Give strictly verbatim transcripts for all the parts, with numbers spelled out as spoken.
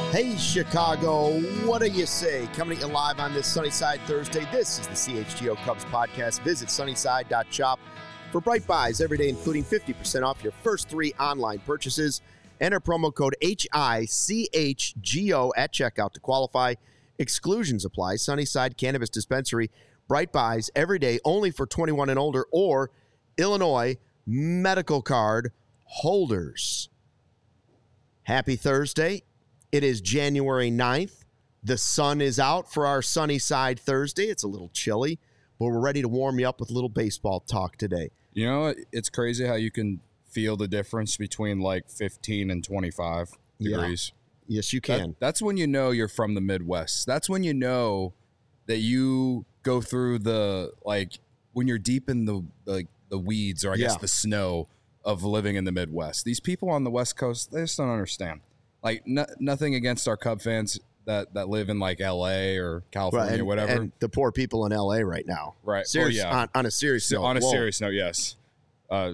Hey, Chicago, what do you say? Coming at you live on this Sunnyside Thursday. This is the C H G O Cubs podcast. Visit sunnyside dot shop for bright buys every day, including fifty percent off your first three online purchases. Enter promo code H I C H G O at checkout to qualify. Exclusions apply. Sunnyside Cannabis Dispensary. Bright buys every day only for twenty-one and older or Illinois medical card holders. Happy Thursday. It is January ninth. The sun is out for our Sunnyside Thursday. It's a little chilly, but we're ready to warm you up with a little baseball talk today. You know, it's crazy how you can feel the difference between like fifteen and twenty-five degrees. Yeah. Yes, you can. That, that's when you know you're from the Midwest. That's when you know that you go through the, like, when you're deep in the like the weeds or I guess Yeah. the snow of living in the Midwest. These people on the West Coast, they just don't understand. Like, no, nothing against our Cub fans that, that live in, like, L A or California Right, and, or whatever. And the poor people in L A right now. Right. Serious, Well, yeah. on, on a serious So, note. on a Whoa. serious note, yes. Uh,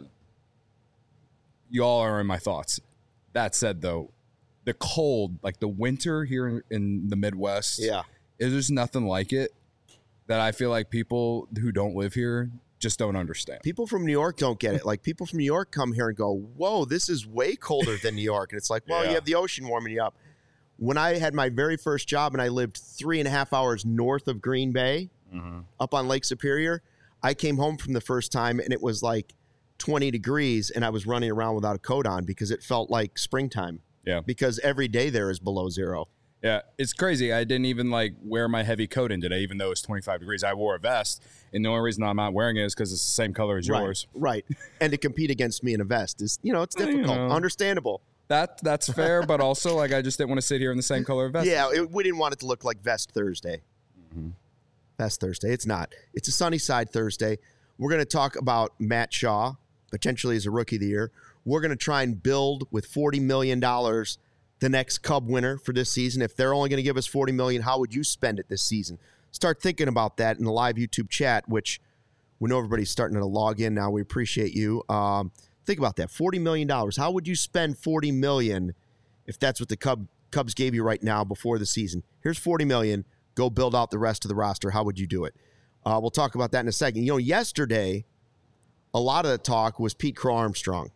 you all are in my thoughts. That said, though, the cold, like the winter here in, in the Midwest, Yeah. there's nothing like it that I feel like people who don't live here just don't understand. People from New York don't get it. Like, people from New York come here and go, whoa, this is way colder than New York. And it's like, well, Yeah. you have the ocean warming you up. When I had my very first job and I lived three and a half hours north of Green Bay, Mm-hmm. up on Lake Superior, I came home from the first time and it was like twenty degrees and I was running around without a coat on because it felt like springtime. Yeah. Because every day there is below zero. Yeah, it's crazy. I didn't even like wear my heavy coat in today, even though it's twenty-five degrees. I wore a vest, and the only reason I'm not wearing it is because it's the same color as yours. Right, right. And to compete against me in a vest is, you know, it's You difficult. know. Understandable. That that's fair, but also like I just didn't want to sit here in the same color vest. Yeah, it, we didn't want it to look like Vest Thursday. Mm-hmm. Vest Thursday. It's not. It's a sunny side Thursday. We're going to talk about Matt Shaw, potentially as a Rookie of the Year. We're going to try and build with forty million dollars the next Cub winner for this season. If they're only going to give us forty million dollars, how would you spend it this season? Start thinking about that in the live YouTube chat, which we know everybody's starting to log in now. We appreciate you. Um, think about that. forty million dollars. How would you spend forty million dollars if that's what the Cub, Cubs gave you right now before the season? Here's forty million dollars. Go build out the rest of the roster. How would you do it? Uh, we'll talk about that in a second. You know, yesterday, a lot of the talk was Pete Crow Armstrong.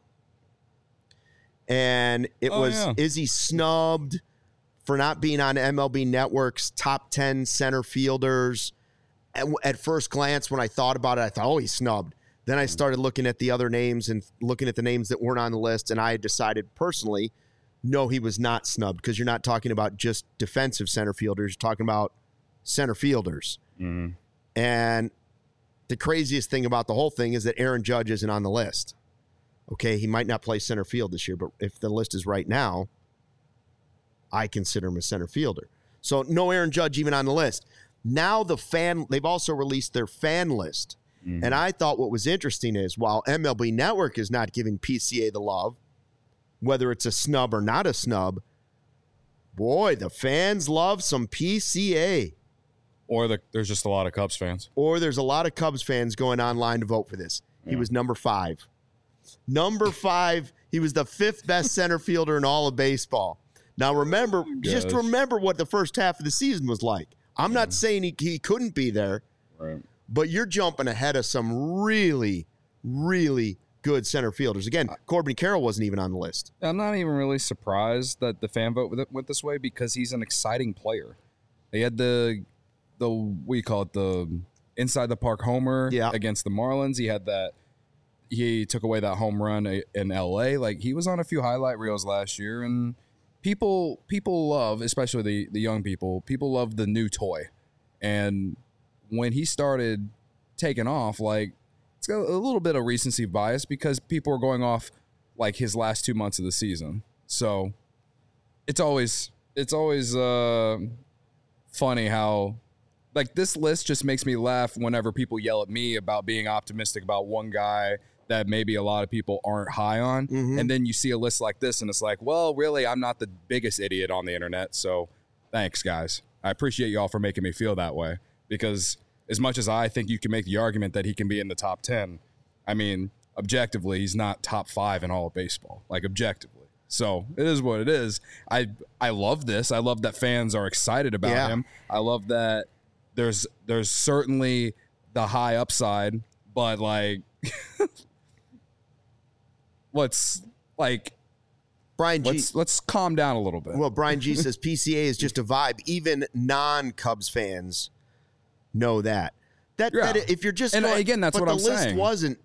And it Oh, was, yeah. is he snubbed for not being on M L B Network's top ten center fielders? At, at first glance, when I thought about it, I thought, oh, he's snubbed. Then I started looking at the other names and looking at the names that weren't on the list, and I decided personally, no, he was not snubbed, because you're not talking about just defensive center fielders. You're talking about center fielders. Mm-hmm. And the craziest thing about the whole thing is that Aaron Judge isn't on the list. Okay, he might not play center field this year, but if the list is right now, I consider him a center fielder. So no Aaron Judge even on the list. Now the fan, they've also released their fan list. Mm-hmm. And I thought what was interesting is while M L B Network is not giving P C A the love, whether it's a snub or not a snub, boy, the fans love some P C A. Or the, there's just a lot of Cubs fans. Or there's a lot of Cubs fans going online to vote for this. He Yeah. was number five. Number five, he was the fifth best center fielder in all of baseball. Now, remember, just Gosh. remember what the first half of the season was like. I'm not saying he, he couldn't be there, Right. but you're jumping ahead of some really, really good center fielders. Again, Corbin Carroll wasn't even on the list. I'm not even really surprised that the fan vote went this way because he's an exciting player. They had the, the what do you call it, the inside the park homer Yeah. against the Marlins. He had that. He took away that home run in L A. Like, he was on a few highlight reels last year, and people people love, especially the, the young people, people love the new toy. And when he started taking off, like, it's got a little bit of recency bias because people are going off like his last two months of the season. So it's always it's always uh, funny how, like, this list just makes me laugh whenever people yell at me about being optimistic about one guy that maybe a lot of people aren't high on. Mhm. And then you see a list like this and it's like, well, really, I'm not the biggest idiot on the internet. So thanks, guys. I appreciate y'all for making me feel that way, because as much as I think you can make the argument that he can be in the top ten, I mean, objectively, he's not top five in all of baseball, like objectively. So it is what it is. I I love this. I love that fans are excited about Yeah. him. I love that there's there's certainly the high upside, but like let's like Brian G. let's let's calm down a little bit. Well, Brian G says P C A is just a vibe. Even non-Cubs fans know that. That, Yeah. that if you're just And going, again, that's but what the I'm list saying. wasn't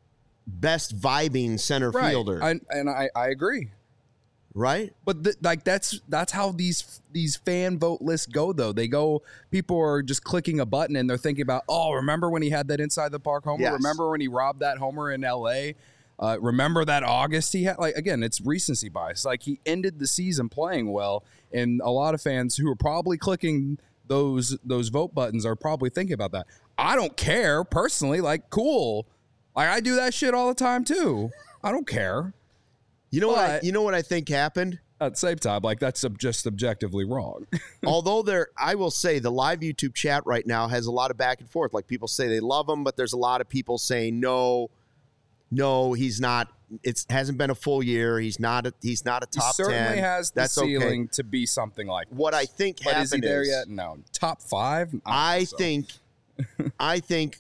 best vibing center right. fielder, I, and I, I agree. right? But th- like that's that's how these these fan vote lists go though. They go, people are just clicking a button and they're thinking about, oh, remember when he had that inside the park homer? Yes. Remember when he robbed that homer in L A? Uh, remember that August he had? Like again, it's recency bias. Like he ended the season playing well, and a lot of fans who are probably clicking those those vote buttons are probably thinking about that. I don't care personally. Like cool, like I do that shit all the time too. I don't care. You know what? I, But- you know what I think happened. At the same time, like that's sub- just objectively wrong. Although there, I will say the live YouTube chat right now has a lot of back and forth. Like people say they love him, but there's a lot of people saying no, no, he's not. It hasn't been a full year. He's not. A, he's not a He top certainly ten. has the That's ceiling okay. to be something like What I think But is he happened there is, yet? No. Top five? I so. think, I think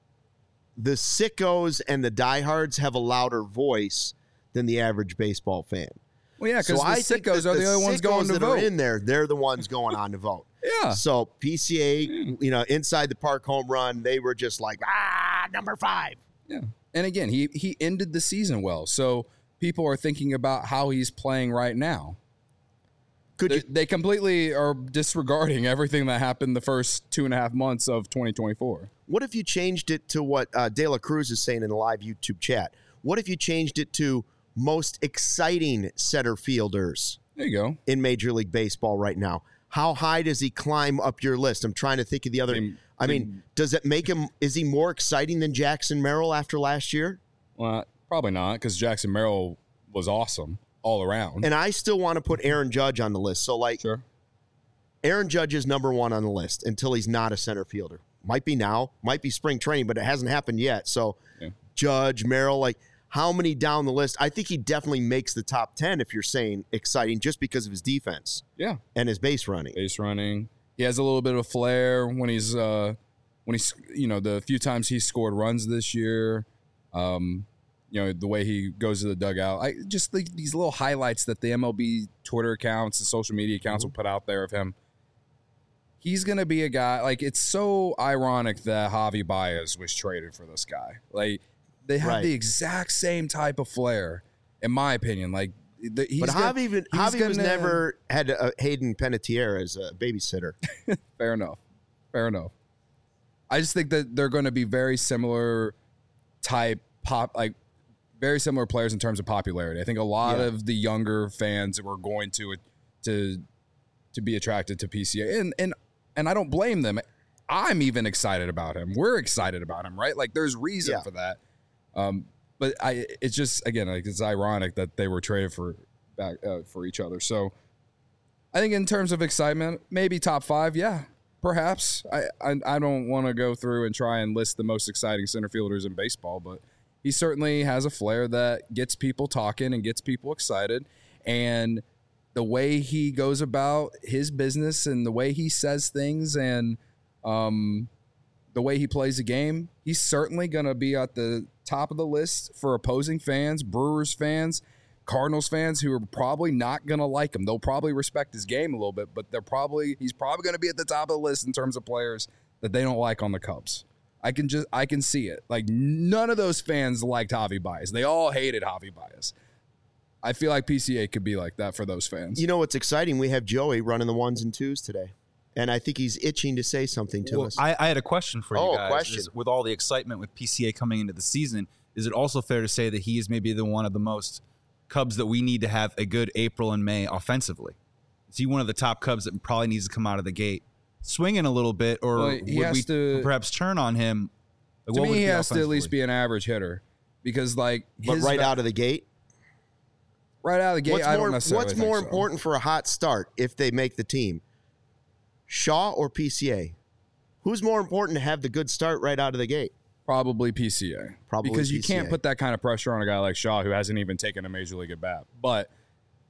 the sickos and the diehards have a louder voice than the average baseball fan. Well, yeah, because So I the think sickos that are the only ones sickos going to that vote. are in there. They're the ones going on to vote. Yeah. So P C A, you know, inside the park home run, they were just like, ah, number five. Yeah. And again, he he ended the season well. So people are thinking about how he's playing right now. Could They, you? they completely are disregarding everything that happened the first two and a half months of twenty twenty-four. What if you changed it to what uh, De La Cruz is saying in the live YouTube chat? What if you changed it to most exciting center fielders There you go. in Major League Baseball right now? How high does he climb up your list? I'm trying to think of the other. Team- I mean, team- does it make him? Is he more exciting than Jackson Merrill after last year? Well, probably not, because Jackson Merrill was awesome all around. And I still want to put Aaron Judge on the list. So, like, Sure. Aaron Judge is number one on the list until he's not a center fielder. Might be now, might be spring training, but it hasn't happened yet. So, Yeah. Judge, Merrill, like, how many down the list? I think he definitely makes the top ten if you're saying exciting just because of his defense Yeah. and his base running. Base running. He has a little bit of a flair when he's uh when he's you know the few times he scored runs this year. Um, you know the way he goes to the dugout. I just think these little highlights that the M L B Twitter accounts and social media accounts will put out there of him. He's gonna be a guy. Like it's so ironic that Javi Baez was traded for this guy. Like they have Right. the exact same type of flair, in my opinion. Like the, he's But gonna- Javi, even, he's Javi was gonna- never had uh, Hayden Panettiere as a babysitter. Fair enough. Fair enough. I just think that they're going to be very similar type pop, like very similar players in terms of popularity. I think a lot Yeah. of the younger fans were going to to to be attracted to P C A, and and and I don't blame them. I'm even excited about him. We're excited about him, right? Like there's reason Yeah. for that. Um, but I, it's just again, like it's ironic that they were traded for back uh, for each other. So I think in terms of excitement, maybe top five, yeah, perhaps. I I, I don't want to go through and try and list the most exciting center fielders in baseball, but he certainly has a flair that gets people talking and gets people excited. And the way he goes about his business and the way he says things and um, the way he plays the game, he's certainly going to be at the top of the list for opposing fans, Brewers fans, Cardinals fans who are probably not going to like him. They'll probably respect his game a little bit, but they're probably he's probably going to be at the top of the list in terms of players that they don't like on the Cubs. I can just I can see it. Like none of those fans liked Javi Baez. They all hated Javi Baez. I feel like P C A could be like that for those fans. You know what's exciting? We have Joey running the ones and twos today. And I think he's itching to say something to Well, us. I, I had a question for Oh, you a guys. question. Is, with all the excitement with P C A coming into the season, is it also fair to say that he is maybe the one of the most Cubs that we need to have a good April and May offensively? Is he one of the top Cubs that probably needs to come out of the gate swinging a little bit, or Well, he would has we to- perhaps turn on him? Like, to what would me, he it be has to at least offensively? be an average hitter because, like, but his right va- out of the gate, right out of the gate, what's I more, don't necessarily what's think more so. important for a hot start if they make the team? Shaw or P C A? Who's more important to have the good start right out of the gate? Probably P C A. Probably because you P C A. can't put that kind of pressure on a guy like Shaw who hasn't even taken a major league at bat. But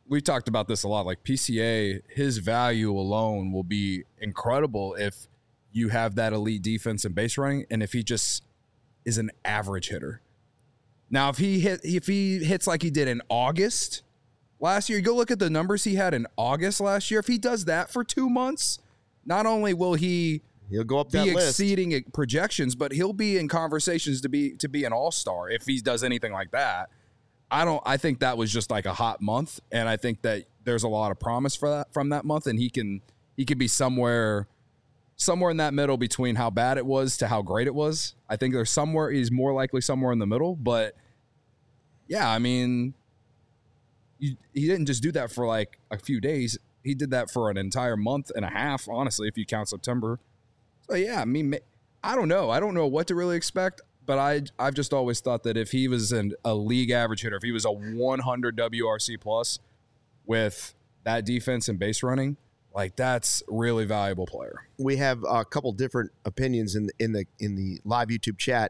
we talked about this a lot. Like P C A, his value alone will be incredible if you have that elite defense and base running, and if he just is an average hitter. Now, if he hit, if he hits like he did in August last year, you go look at the numbers he had in August last year. If he does that for two months, not only will he he'll go up be that list. exceeding projections, but he'll be in conversations to be to be an all-star if he does anything like that. I don't. I think that was just like a hot month, and I think that there's a lot of promise for that from that month, and he can he could be somewhere somewhere in that middle between how bad it was to how great it was. I think there's somewhere he's more likely somewhere in the middle, but yeah, I mean, you, he didn't just do that for like a few days. He did that for an entire month and a half, honestly, if you count September. So yeah, I mean, I don't know. I don't know what to really expect. But I, I've just always thought that if he was an, a league average hitter, if he was a one hundred W R C plus with that defense and base running, like that's a really valuable player. We have a couple different opinions in the, in the in the live YouTube chat.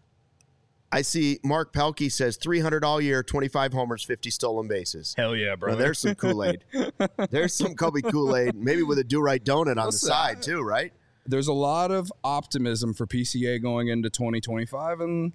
I see Mark Pelkey says three hundred all year, twenty-five homers, fifty stolen bases. Hell yeah, bro. Well, there's some Kool-Aid. There's some Kobe Kool-Aid, maybe with a do-right donut on What's the that? side too, right? There's a lot of optimism for P C A going into twenty twenty-five, and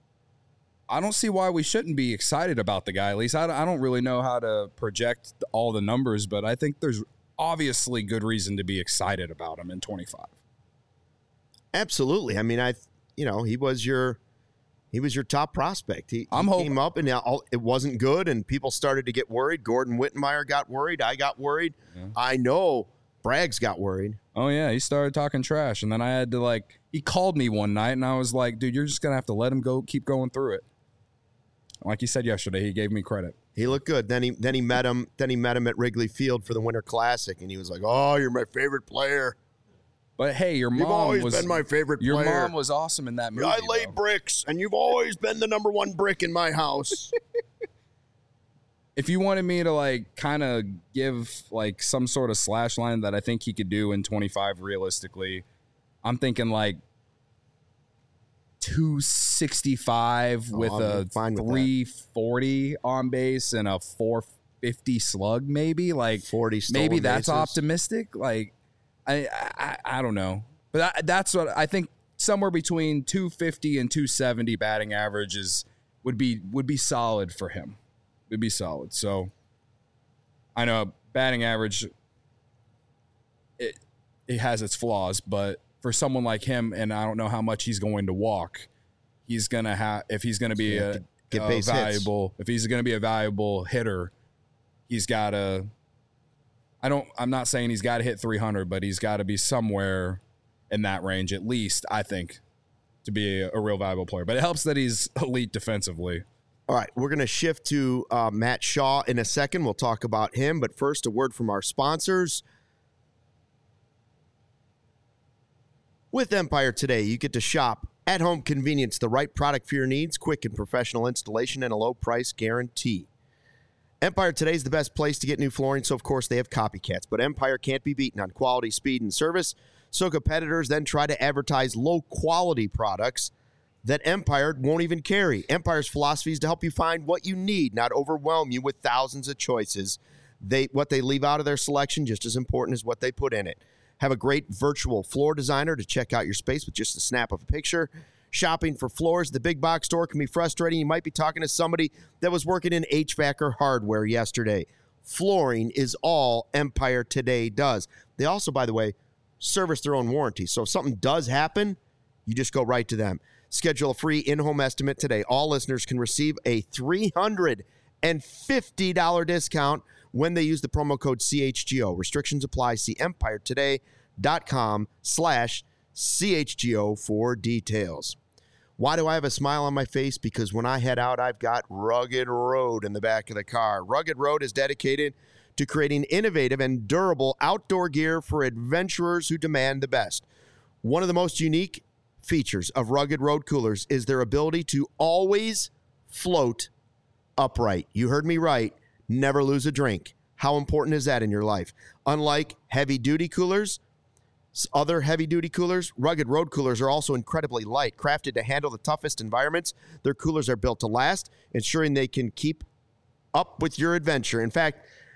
I don't see why we shouldn't be excited about the guy. At least I, I don't really know how to project all the numbers, but I think there's obviously good reason to be excited about him in twenty-five. Absolutely. I mean, I, you know, he was your, he was your top prospect. He, I'm he hoping- came up and now it wasn't good, and people started to get worried. Gordon Wittenmeyer got worried. I got worried. Yeah. I know Braggs got worried. Oh, yeah, he started talking trash, and then I had to, like, he called me one night, and I was like, dude, you're just going to have to let him go, keep going through it. Like you said yesterday, he gave me credit. He looked good. Then he then he met him. Then he met him at Wrigley Field for the Winter Classic, and he was like, "Oh, you're my favorite player. But, hey, your You've mom always was been my favorite your player. mom was awesome in that movie, I lay though. bricks, and you've always been the number one brick in my house." If you wanted me to, like, kind of give, like, some sort of slash line that I think he could do in twenty-five realistically, I'm thinking, like, two sixty-five Oh, with I'm a fine with that. three forty on base and a four fifty slug, maybe. Like, forty stolen maybe that's bases. optimistic. Like, I, I, I don't know. But I, that's what I think somewhere between two fifty and two seventy batting average is, would be would be solid for him. Would be solid. So I know batting average, it it has its flaws, but for someone like him, and I don't know how much he's going to walk, he's gonna have if he's gonna be You have a, to get a base hits. valuable if he's gonna be a valuable hitter, he's gotta I don't I'm not saying he's gotta hit three hundred, but he's gotta be somewhere in that range at least, I think, to be a, a real valuable player. But it helps that he's elite defensively. All right, we're going to shift to uh, Matt Shaw in a second. We'll talk about him, but first, a word from our sponsors. With Empire Today, you get to shop at home convenience, the right product for your needs, quick and professional installation, and a low price guarantee. Empire Today is the best place to get new flooring, so of course they have copycats, but Empire can't be beaten on quality, speed, and service. So competitors then try to advertise low-quality products that Empire won't even carry. Empire's philosophy is to help you find what you need, not overwhelm you with thousands of choices. They what they leave out of their selection just as important as what they put in it. Have a great virtual floor designer to check out your space with just a snap of a picture. Shopping for floors at the big box store can be frustrating. You might be talking to somebody that was working in H V A C or hardware yesterday. Flooring is all Empire Today does. They also, by the way, service their own warranty. So if something does happen, you just go right to them. Schedule a free in-home estimate today. All listeners can receive a three hundred fifty dollars discount when they use the promo code C H G O. Restrictions apply. See empiretoday.com slash CHGO for details. Why do I have a smile on my face? Because when I head out, I've got Rugged Road in the back of the car. Rugged Road is dedicated to creating innovative and durable outdoor gear for adventurers who demand the best. One of the most unique features of Rugged Road coolers is their ability to always float upright. You heard me right. Never lose a drink. How important is that in your life? Unlike heavy-duty coolers, other heavy-duty coolers, Rugged Road coolers are also incredibly light, crafted to handle the toughest environments. Their coolers are built to last, ensuring they can keep up with your adventure. In fact,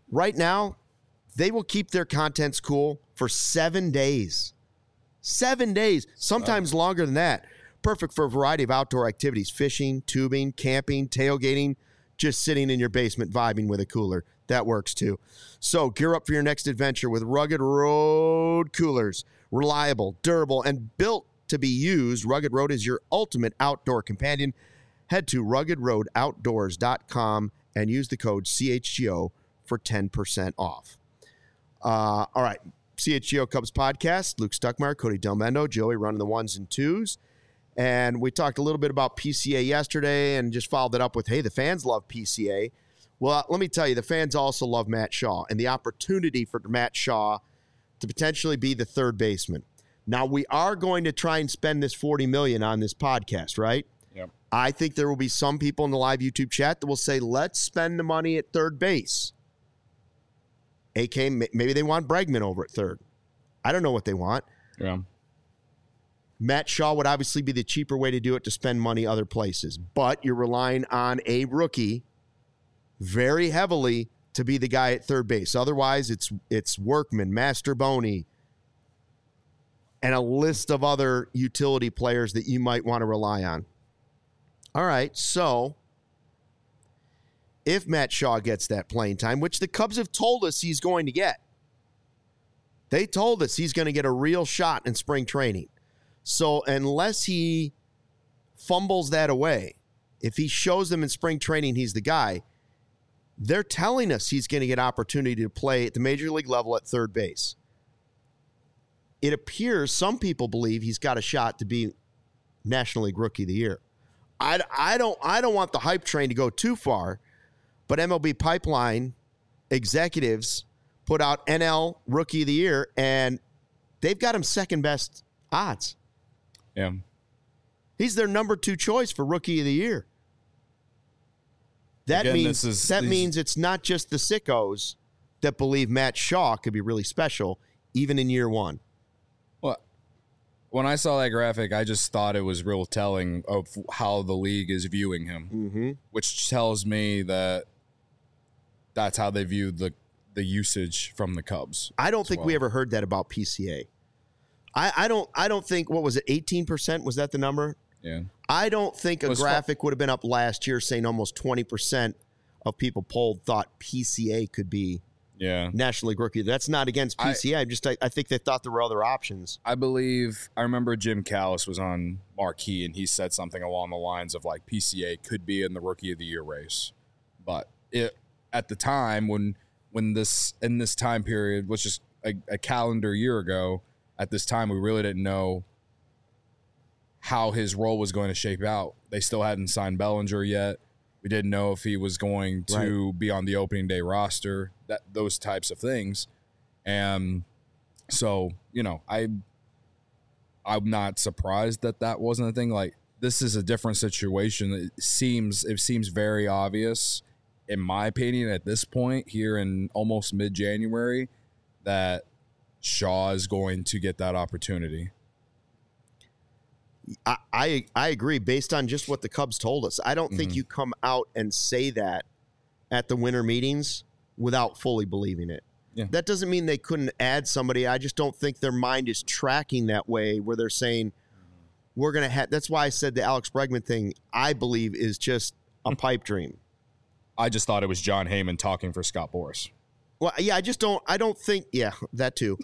right now, they will keep their contents cool for seven days. Seven days, sometimes longer than that. Perfect for a variety of outdoor activities, fishing, tubing, camping, tailgating, just sitting in your basement vibing with a cooler. That works too. So gear up for your next adventure with Rugged Road coolers. Reliable, durable, and built to be used, Rugged Road is your ultimate outdoor companion. Head to rugged road outdoors dot com and use the code C H G O for ten percent off. Uh, all right, C H G O Cubs podcast. Luke Stuckmeyer, Cody Delmendo, Joey running the ones and twos. And we talked a little bit about P C A yesterday and just followed it up with, hey, the fans love P C A. Well, let me tell you, the fans also love Matt Shaw and the opportunity for Matt Shaw to potentially be the third baseman. Now, we are going to try and spend this forty million dollars on this podcast, right? Yep. I think there will be some people in the live YouTube chat that will say, let's spend the money at third base. A K, maybe they want Bregman over at third. I don't know what they want. Yeah. Matt Shaw would obviously be the cheaper way to do it, to spend money other places. But you're relying on a rookie very heavily to be the guy at third base. Otherwise, it's it's Workman, Masterboni, and a list of other utility players that you might want to rely on. All right, so if Matt Shaw gets that playing time, which the Cubs have told us he's going to get, they told us he's going to get a real shot in spring training. So unless he fumbles that away, if he shows them in spring training he's the guy, they're telling us he's going to get opportunity to play at the major league level at third base. It appears some people believe he's got a shot to be National League Rookie of the Year. I, I don't I don't want the hype train to go too far, but M L B Pipeline executives put out N L Rookie of the Year, and they've got him second best odds. Yeah. He's their number two choice for Rookie of the Year. That Again, means this is, that these... means it's not just the sickos that believe Matt Shaw could be really special, even in year one. Well, when I saw that graphic, I just thought it was real telling of how the league is viewing him, Mm-hmm. which tells me that that's how they view the the usage from the Cubs. I don't think well. we ever heard that about P C A. I, I don't I don't think, what was it, eighteen percent? Was that the number? Yeah. I don't think a Was graphic would have been up last year saying almost twenty percent of people polled thought P C A could be Yeah. National League Rookie. That's not against P C A. I, just I, I think they thought there were other options. I believe I remember Jim Callis was on Marquee and he said something along the lines of like P C A could be in the Rookie of the Year race. But it at the time when when this in this time period, which is a, a calendar year ago, at this time we really didn't know how his role was going to shape out. They still hadn't signed Bellinger yet. We didn't know if he was going to right. be on the opening day roster, that those types of things. And so, you know, I, I'm not surprised that that wasn't a thing. Like, this is a different situation. It seems, it seems very obvious, in my opinion, at this point here in almost mid-January, that Shaw is going to get that opportunity. I, I I agree based on just what the Cubs told us. I don't mm-hmm. think you come out and say that at the winter meetings without fully believing it. Yeah. That doesn't mean they couldn't add somebody. I just don't think their mind is tracking that way where they're saying we're going to have – that's why I said the Alex Bregman thing, I believe, is just a pipe dream. I just thought it was John Heyman talking for Scott Boras. Well, yeah, I just don't – I don't think – yeah, that too.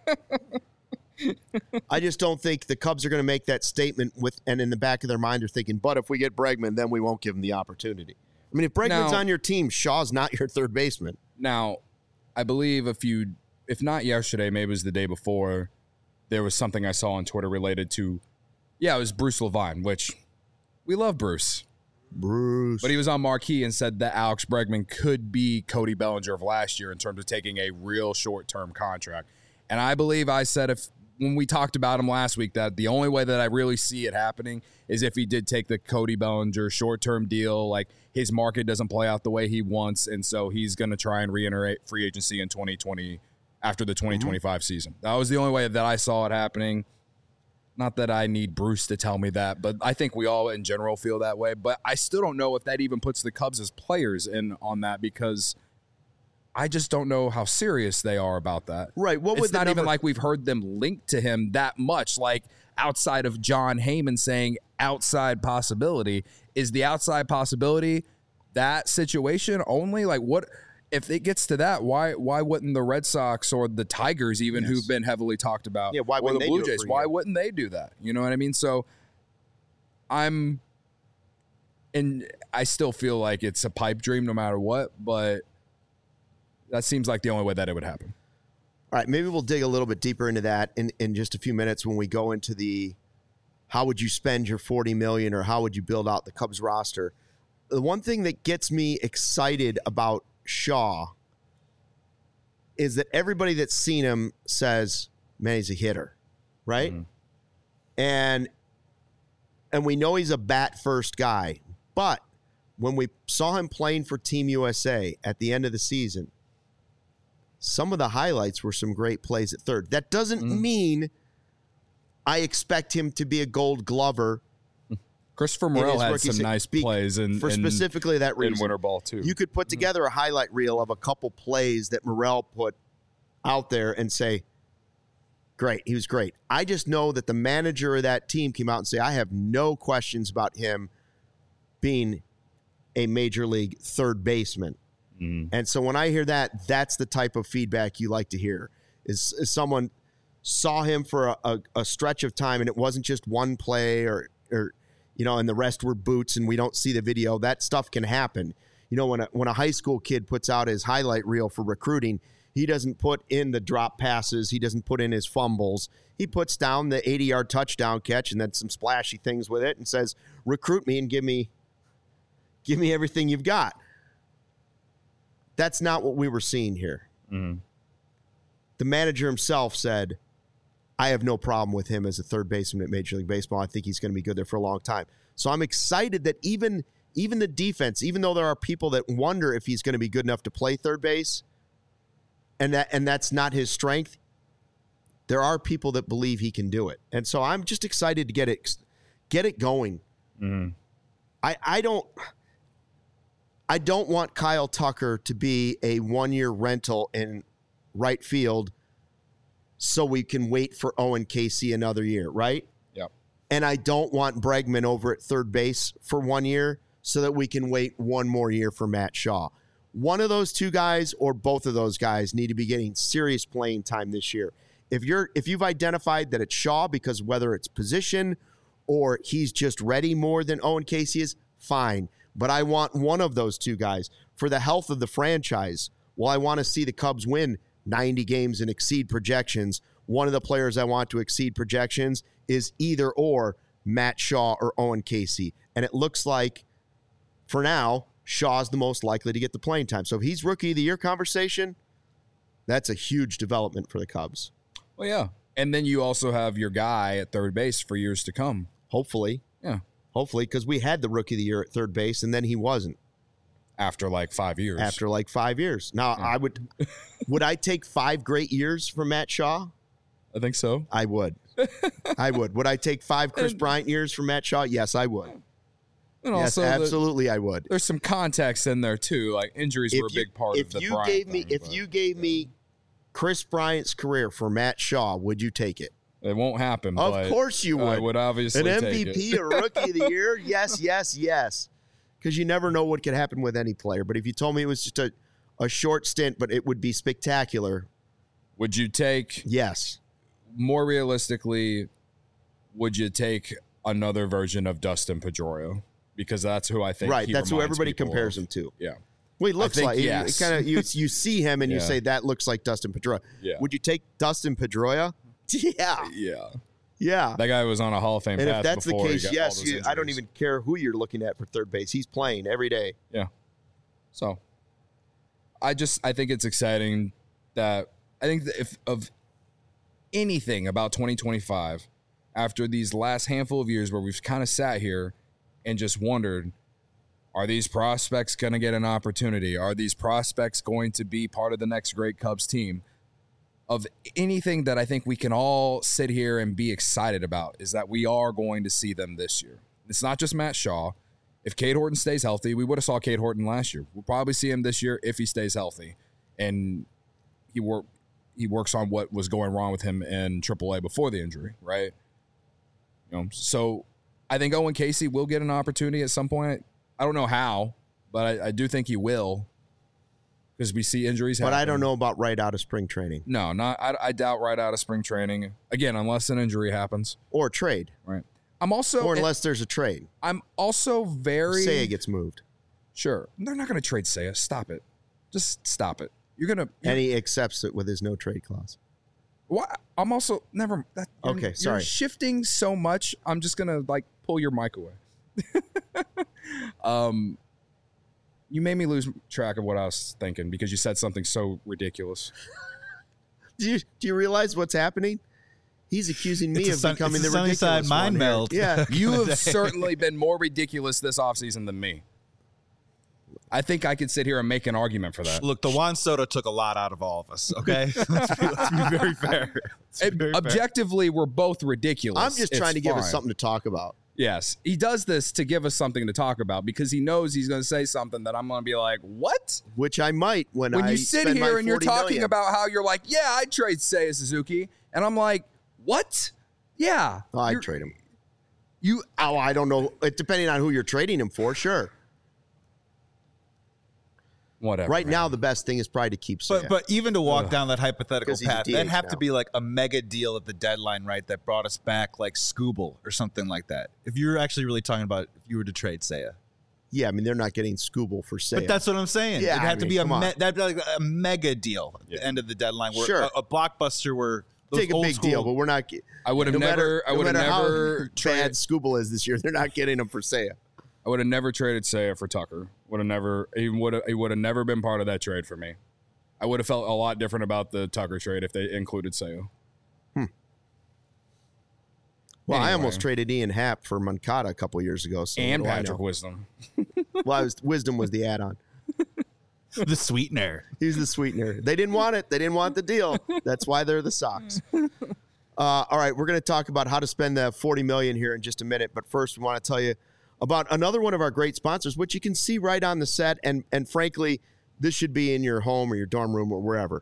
I just don't think the Cubs are going to make that statement with, and in the back of their mind are thinking, but if we get Bregman, then we won't give him the opportunity. I mean, if Bregman's now, on your team, Shaw's not your third baseman. Now, I believe a few, if not yesterday, maybe it was the day before, there was something I saw on Twitter related to, yeah, it was Bruce Levine, which we love Bruce. Bruce. But he was on Marquee and said that Alex Bregman could be Cody Bellinger of last year in terms of taking a real short-term contract. And I believe I said if, when we talked about him last week, that the only way that I really see it happening is if he did take the Cody Bellinger short-term deal, like his market doesn't play out the way he wants, and so he's going to try and reiterate free agency in twenty twenty after the twenty twenty-five mm-hmm. season. That was the only way that I saw it happening. Not that I need Bruce to tell me that, but I think we all in general feel that way. But I still don't know if that even puts the Cubs as players in on that, because I just don't know how serious they are about that. Right. What it's would the not number- even like we've heard them linked to him that much. Like outside of John Heyman saying outside possibility, is the outside possibility that situation only? Like what if it gets to that? Why why wouldn't the Red Sox or the Tigers even Yes. who've been heavily talked about? Yeah, why or wouldn't the they Blue do it Jays? for a Why year? wouldn't they do that? You know what I mean? So I'm and I still feel like it's a pipe dream no matter what, but that seems like the only way that it would happen. All right, maybe we'll dig a little bit deeper into that in, in just a few minutes when we go into the how would you spend your forty million dollars or how would you build out the Cubs roster. The one thing that gets me excited about Shaw is that everybody that's seen him says, man, he's a hitter, right? Mm-hmm. And and we know he's a bat first guy, but when we saw him playing for Team U S A at the end of the season, some of the highlights were some great plays at third. That doesn't Mm. mean I expect him to be a Gold Glover. Christopher in Morel his had rookie some se- nice be- plays in, for in, specifically that in reason. winter ball too. You could put Mm-hmm. together a highlight reel of a couple plays that Morel put out there and say, great, he was great. I just know that the manager of that team came out and say, I have no questions about him being a major league third baseman. Mhm. And so when I hear that, that's the type of feedback you like to hear. Is, is someone saw him for a, a, a stretch of time and it wasn't just one play or, or, you know, and the rest were boots and we don't see the video. That stuff can happen. You know, when a, when a high school kid puts out his highlight reel for recruiting, he doesn't put in the drop passes. He doesn't put in his fumbles. He puts down the eighty-yard touchdown catch and then some splashy things with it and says, recruit me and give me, give me everything you've got. That's not what we were seeing here. Mhm. The manager himself said, I have no problem with him as a third baseman at Major League Baseball. I think he's going to be good there for a long time. So I'm excited that even, even the defense, even though there are people that wonder if he's going to be good enough to play third base, and that and that's not his strength, there are people that believe he can do it. And so I'm just excited to get it get it going. Mhm. I, I don't I don't want Kyle Tucker to be a one-year rental in right field so we can wait for Owen Casey another year, right? Yep. And I don't want Bregman over at third base for one year so that we can wait one more year for Matt Shaw. One of those two guys or both of those guys need to be getting serious playing time this year. If you're if you've identified that it's Shaw because whether it's position or he's just ready more than Owen Casey is, fine. But I want one of those two guys for the health of the franchise. Well, I want to see the Cubs win ninety games and exceed projections. One of the players I want to exceed projections is either or Matt Shaw or Owen Casey. And it looks like, for now, Shaw's the most likely to get the playing time. So if he's Rookie of the Year conversation, that's a huge development for the Cubs. Well, yeah. And then you also have your guy at third base for years to come. Hopefully. Yeah. Hopefully, because we had the Rookie of the Year at third base, and then he wasn't. After like five years. After like five years. Now, Yeah. I would, would I take five great years from Matt Shaw? I think so. I would. I would. Would I take five Chris And- Bryant years from Matt Shaw? Yes, I would. And Yes, also, the- absolutely, I would. there's some context in there too. Like injuries were a you- big part if of the you Bryant gave me, thing, if but you gave me Chris Bryant's career for Matt Shaw, would you take it? it won't happen. Of but course you I would. would obviously An M take V it. P, a Rookie of the Year? Yes, yes, yes. Because you never know what could happen with any player. But if you told me it was just a, a short stint, but it would be spectacular, Would you take yes. more realistically? Would you take another version of Dustin Pedroia? Because that's who I think. Right, he that's who reminds everybody people compares of. him to. Yeah, Well, he looks think like yes. kind of you. You see him and you Yeah. say that looks like Dustin Pedroia. Yeah. Would you take Dustin Pedroia? Yeah, yeah. yeah. That guy was on a Hall of Fame And path if that's the before he case, got yes, all those you, I don't injuries. even care who you're looking at for third base. He's playing every day. Yeah. So, I just I think it's exciting that I think that if of anything about twenty twenty-five, after these last handful of years where we've kind of sat here and just wondered, are these prospects going to get an opportunity? Are these prospects going to be part of the next great Cubs team? Of anything that I think we can all sit here and be excited about is that we are going to see them this year. It's not just Matt Shaw. If Cade Horton stays healthy, we would have saw Cade Horton last year. We'll probably see him this year if he stays healthy. and he work he works on what was going wrong with him in triple A before the injury, right? You know, so I think Owen Casey will get an opportunity at some point. I don't know how, but I, I do think he will, because we see injuries happen. But I don't know about right out of spring training. No, not I, I doubt right out of spring training. Again, unless an injury happens. Or trade. Right. I'm also Or unless there's a trade. I'm also very Seiya gets moved. Sure. They're not going to trade Seiya. Stop it. Just stop it. You're going to And he accepts it with his no trade clause. Why? I'm also never that, you're, Okay, sorry. You're shifting so much. I'm just going to like pull your mic away. um You made me lose track of what I was thinking because you said something so ridiculous. Do you do you realize what's happening? He's accusing me It's a of sun- becoming it's a the sunny ridiculous side mind one here. meld. Yeah. You have certainly been more ridiculous this offseason than me. I think I could sit here and make an argument for that. Look, the Juan Soto took a lot out of all of us, okay? let's, be, let's be very fair. Let's be Ob- very fair. Objectively, we're both ridiculous. I'm just It's trying to give us fine. something to talk about. Yes. He does this to give us something to talk about because he knows he's going to say something that I'm going to be like, what? Which I might when, When I you sit spend my here and you're forty talking million. about how you're like, yeah, I'd trade Seiya Suzuki. And I'm like, what? Yeah. Oh, I'd You're- trade him. You, Oh, I don't know. It, depending on who you're trading him for, sure. whatever. Right man. now, the best thing is probably to keep Seiya. But but even to walk Ugh. down that hypothetical 'Cause he's a path, D H that'd have now. to be like a mega deal at the deadline, right? That brought us back like Scooble or something like that. If you're actually really talking about if you were to trade Seiya. yeah, I mean, they're not getting Scooble for Seiya. But that's what I'm saying. Yeah, It'd I have to mean, be a come on. me- that'd be like a mega deal at Yeah. the end of the deadline, where Sure. a, a blockbuster where those Take a old big school, deal, but we're not. I would have no never, matter, I no would have matter never, how tra- bad Scooble is this year, they're not getting him for Seiya. I would have never traded Seiya for Tucker. Would have never, he would have, he would have never been part of that trade for me. I would have felt a lot different about the Tucker trade if they included Seiya. Well, I Anyway. almost traded Ian Happ for Moncada a couple years ago. So And what do I Patrick know? Wisdom. Well, I was, Wisdom was the add-on. the sweetener. He's the sweetener. They didn't want it. They didn't want the deal. That's why they're the Sox. Uh, all right, we're going to talk about how to spend the forty million dollars here in just a minute. But first, we want to tell you about another one of our great sponsors, which you can see right on the set. And and frankly, this should be in your home or your dorm room or wherever.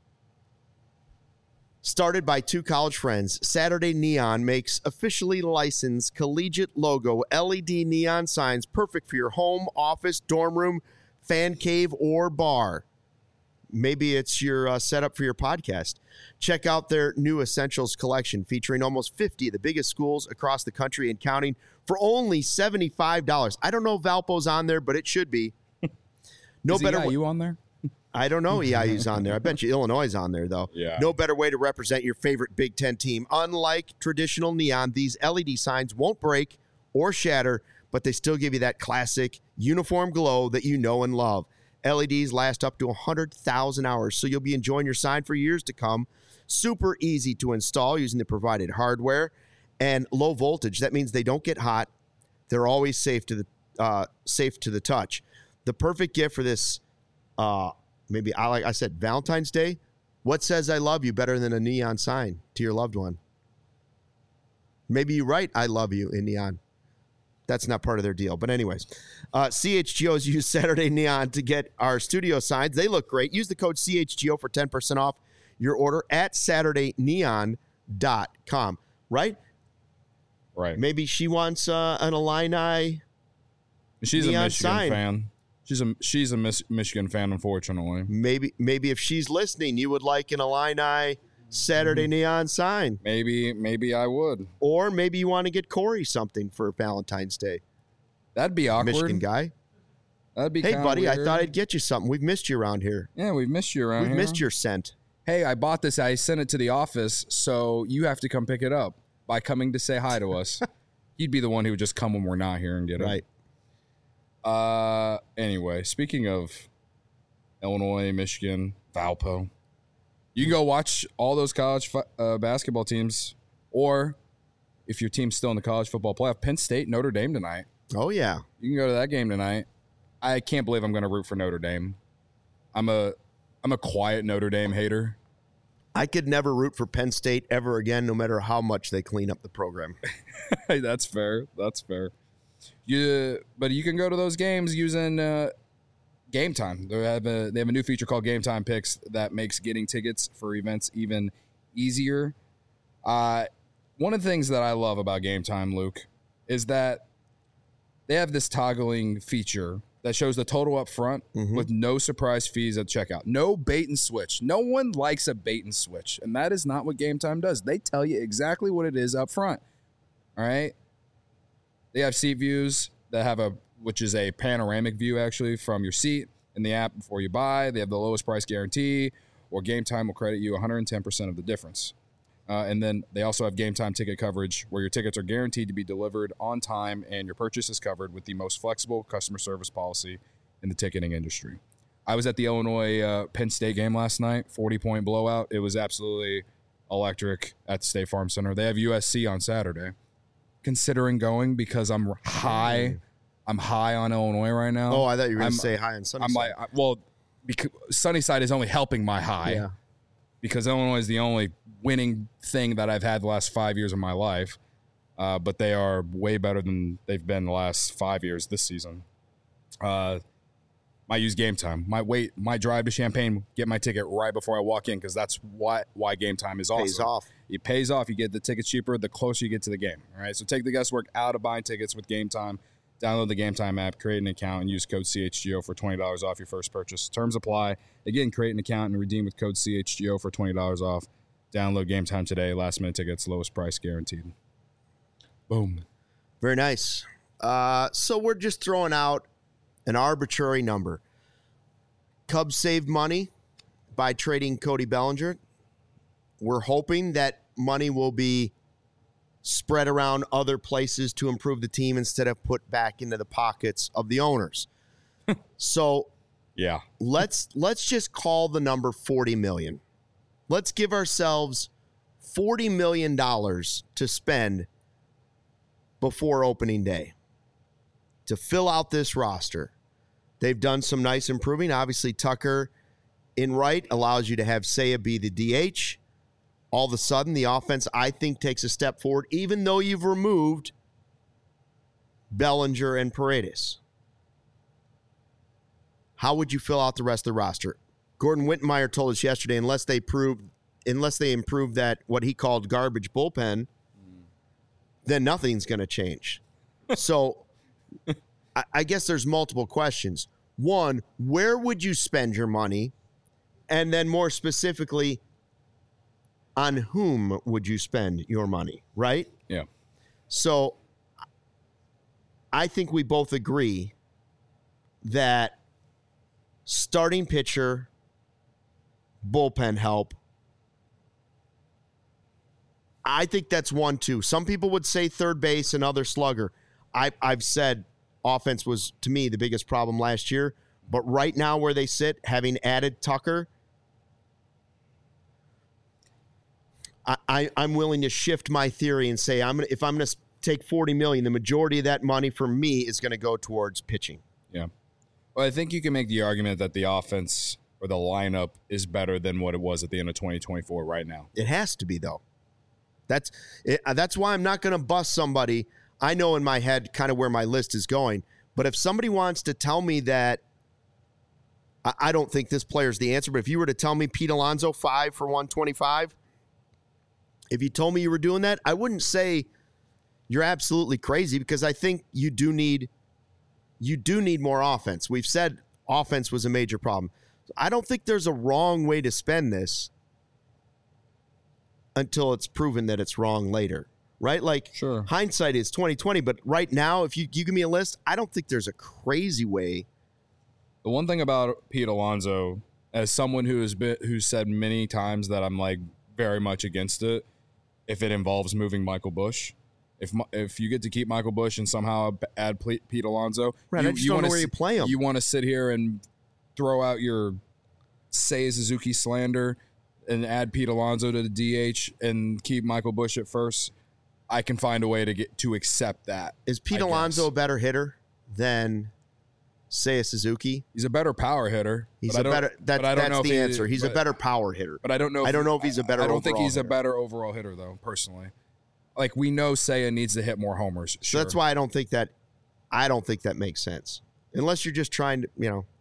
Started by two college friends, Saturday Neon makes officially licensed collegiate logo L E D neon signs perfect for your home, office, dorm room, fan cave, or bar. Maybe it's your uh, setup for your podcast. Check out their new Essentials collection featuring almost fifty of the biggest schools across the country and counting for only seventy-five dollars. I don't know if Valpo's on there, but it should be. No Is better E I way- U on there? I don't know E I U's on there. I bet you Illinois is on there, though. Yeah. No better way to represent your favorite Big Ten team. Unlike traditional neon, these L E D signs won't break or shatter, but they still give you that classic uniform glow that you know and love. L E Ds last up to one hundred thousand hours, so you'll be enjoying your sign for years to come. Super easy to install using the provided hardware and low voltage. That means they don't get hot. They're always safe to the uh, safe to the touch. The perfect gift for this uh, maybe I like I said Valentine's Day. What says I love you better than a neon sign to your loved one? Maybe you write I love you in neon. That's not part of their deal. But anyways, uh, C H G O's use Saturday Neon to get our studio signs. They look great. Use the code C H G O for ten percent off your order at saturday neon dot com. Right? Right. Maybe she wants uh, an Illini. She's a neon Michigan sign. fan. She's a she's a Mis- Michigan fan, unfortunately. Maybe maybe if she's listening, you would like an Illini Saturday neon sign. Maybe maybe I would. Or maybe you want to get Corey something for Valentine's Day. That'd be awkward. Michigan guy. That'd be Hey, kinda buddy, I weird. thought I'd get you something. We've missed you around here. Yeah, we've missed you around We've here. missed your scent. Hey, I bought this. I sent it to the office, so you have to come pick it up by coming to say hi to us. You'd be the one who would just come when we're not here and get it. Right. Uh. Anyway, speaking of Illinois, Michigan, Valpo, you can go watch all those college fu- uh, basketball teams, or if your team's still in the college football playoff, Penn State, Notre Dame tonight. Oh, yeah. You can go to that game tonight. I can't believe I'm going to root for Notre Dame. I'm a I'm a quiet Notre Dame hater. I could never root for Penn State ever again, no matter how much they clean up the program. Hey, that's fair. That's fair. You, but you can go to those games using uh, Game Time. They have a they have a new feature called Game Time Picks that makes getting tickets for events even easier. Uh, one of the things that I love about Game Time, Luke, is that they have this toggling feature that shows the total up front mm-hmm. with no surprise fees at checkout. No bait and switch. No one likes a bait and switch, and that is not what Game Time does. They tell you exactly what it is up front. All right? They have seat views that have a which is a panoramic view, actually, from your seat in the app before you buy. They have the lowest price guarantee, or Game Time will credit you one hundred ten percent of the difference. Uh, and then they also have Game Time ticket coverage, where your tickets are guaranteed to be delivered on time and your purchase is covered with the most flexible customer service policy in the ticketing industry. I was at the Illinois uh, Penn State game last night, forty-point blowout. It was absolutely electric at the State Farm Center. They have U S C on Saturday. Considering going because I'm high – I'm high on Illinois right now. Oh, I thought you were going to say high on Sunnyside. I'm like, I, well, because Sunnyside is only helping my high yeah. because Illinois is the only winning thing that I've had the last five years of my life. Uh, but they are way better than they've been the last five years this season. Uh, might use Game Time. Might wait. Might drive to Champaign, get my ticket right before I walk in because that's why why Game Time is awesome. Pays off. It pays off. You get the tickets cheaper the closer you get to the game. All right. So take the guesswork out of buying tickets with Game Time. Download the Game Time app, create an account, and use code C H G O for twenty dollars off your first purchase. Terms apply. Again, create an account and redeem with code C H G O for twenty dollars off. Download Game Time today. Last minute tickets, lowest price guaranteed. Boom. Very nice. Uh, so we're just throwing out an arbitrary number. Cubs saved money by trading Cody Bellinger. We're hoping that money will be spread around other places to improve the team instead of put back into the pockets of the owners. So yeah, let's let's just call the number forty million dollars. Let's give ourselves forty million dollars to spend before opening day to fill out this roster. They've done some nice improving. Obviously, Tucker in right allows you to have Seiya be the D H. All of a sudden, the offense, I think, takes a step forward, even though you've removed Bellinger and Paredes. How would you fill out the rest of the roster? Gordon Wittenmeyer told us yesterday, unless they prove, unless they improve that what he called garbage bullpen, mm. then nothing's going to change. So, I, I guess there's multiple questions. One, where would you spend your money? And then more specifically, on whom would you spend your money, right? Yeah. So I think we both agree that starting pitcher, bullpen help, I think that's one, two. Some people would say third base, another slugger. I, I've said offense was, to me, the biggest problem last year. But right now where they sit, having added Tucker, I, I, I'm willing to shift my theory and say I'm gonna, if I'm going to take forty million dollars, the majority of that money for me is going to go towards pitching. Yeah. Well, I think you can make the argument that the offense or the lineup is better than what it was at the end of twenty twenty-four right now. It has to be, though. That's it, that's why I'm not going to bust somebody. I know in my head kind of where my list is going. But if somebody wants to tell me that, I, I don't think this player's the answer. But if you were to tell me Pete Alonso, five for one twenty-five, if you told me you were doing that, I wouldn't say you're absolutely crazy because I think you do need you do need more offense. We've said offense was a major problem. I don't think there's a wrong way to spend this until it's proven that it's wrong later, right? Like, sure. Hindsight is twenty twenty, but right now, if you, you give me a list, I don't think there's a crazy way. The one thing about Pete Alonso, as someone who has been who said many times that I'm like very much against it, if it involves moving Michael Busch. If if you get to keep Michael Busch and somehow add Pete Alonso, right, you, I just you don't know where s- you play him. You want to sit here and throw out your Seiya Suzuki slander and add Pete Alonso to the D H and keep Michael Busch at first. I can find a way to get to accept that. Is Pete I Alonso guess. a better hitter than Seiya Suzuki? He's a better power hitter. He's a better. That, that's the he, answer. He's but, a better power hitter. But I don't know. I if, don't know if he's a better. I don't think he's hitter. a better overall hitter though. Personally, like we know Seiya needs to hit more homers. Sure. So that's why I don't think that. I don't think that makes sense unless you're just trying to, you know,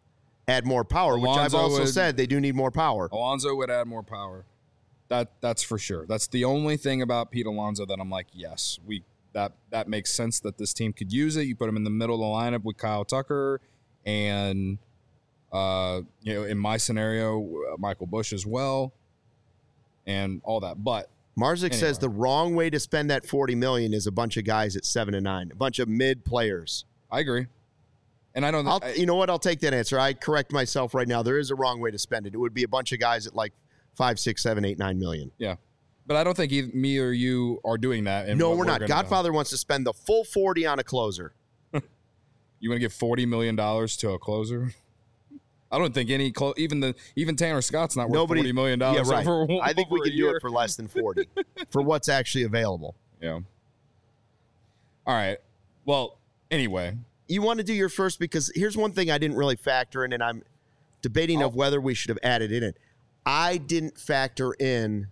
add more power, which I've Alonso also would- said they do need more power. Alonso would add more power. That that's for sure. That's the only thing about Pete Alonso that I'm like, yes, we that that makes sense that this team could use it. You put him in the middle of the lineup with Kyle Tucker and uh, you know, in my scenario, uh, Michael Bush as well, and all that. But Marzik anyway. says the wrong way to spend that forty million is a bunch of guys at seven and nine, a bunch of mid players. I agree. And I don't I'll, I, you know what? I'll take that answer. I correct myself right now. There is a wrong way to spend it. It would be a bunch of guys at like five, six, seven, eight, nine million. yeah. But I don't think either me or you are doing that. And No, what we're not. gonna Godfather wants to spend the full forty on a closer. You want to give forty million dollars to a closer? I don't think any clo- even the even Tanner Scott's not worth Nobody, forty million dollars. yeah, right. Over, I think we over a can do year. it for less than forty for what's actually available. Yeah. All right. Well, anyway, You want to do your first because here's one thing I didn't really factor in, and I'm debating of whether we should have added in it. I didn't factor in.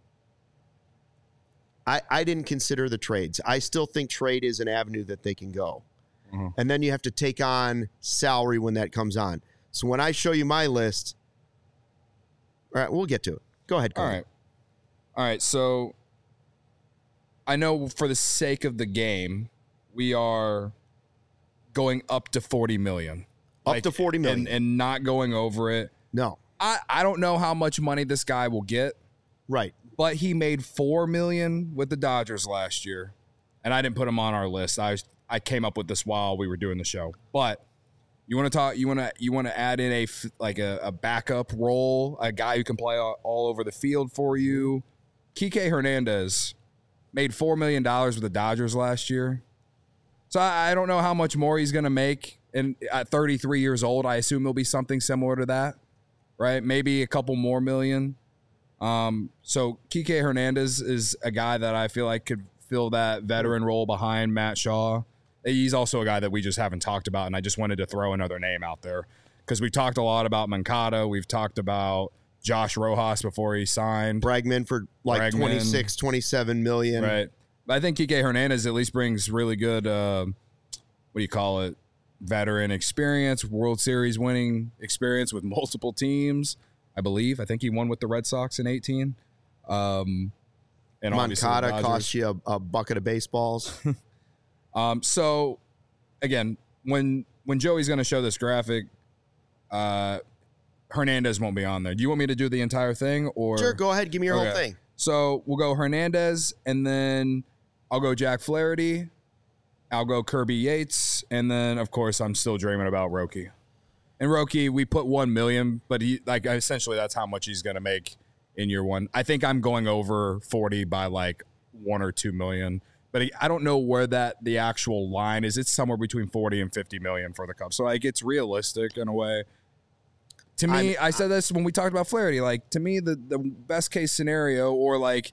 I, I didn't consider the trades. I still think trade is an avenue that they can go. Mhm. And then you have to take on salary when that comes on. So when I show you my list, all right, we'll get to it. Go ahead, all Cody. right. All right. So I know for the sake of the game, we are going up to forty million. Up Like, to forty million. And, and not going over it. no, I, I don't know how much money this guy will get, right. but he made four million with the Dodgers last year, and I didn't put him on our list. I was, I came up with this while we were doing the show. But you want to talk? You want to you want to add in a f- like a, a backup role, a guy who can play all, all over the field for you. Kike Hernandez made four million dollars with the Dodgers last year, so I, I don't know how much more he's going to make. And at thirty-three years old, I assume it'll be something similar to that, right? Maybe a couple more million. Um, so Kike Hernandez is a guy that I feel like could fill that veteran role behind Matt Shaw. He's also a guy that we just haven't talked about, and I just wanted to throw another name out there because we've talked a lot about Moncada. We've talked about Josh Rojas before he signed. Bregman for like Bregman. twenty-six, twenty-seven million. Right. But I think Kike Hernandez at least brings really good, uh, what do you call it, veteran experience, World Series winning experience with multiple teams, I believe. I think he won with the Red Sox in eighteen. Um, and obviously the Moncada Dodgers. costs you a, a bucket of baseballs. Um, so again, when when Joey's going to show this graphic, uh, Hernandez won't be on there. Do you want me to do the entire thing, or Sure, go ahead. Give me your Okay. whole thing. So we'll go Hernandez, and then I'll go Jack Flaherty. I'll go Kirby Yates, and then of course I'm still dreaming about Roki. And Roki, we put one million, but he like essentially that's how much he's going to make in year one. I think I'm going over forty by like one or two million. But I don't know where that the actual line is. It's somewhere between forty and fifty million for the Cubs. So like it's realistic in a way. To me, I'm- I said this when we talked about Flaherty. Like to me, the, the best case scenario, or like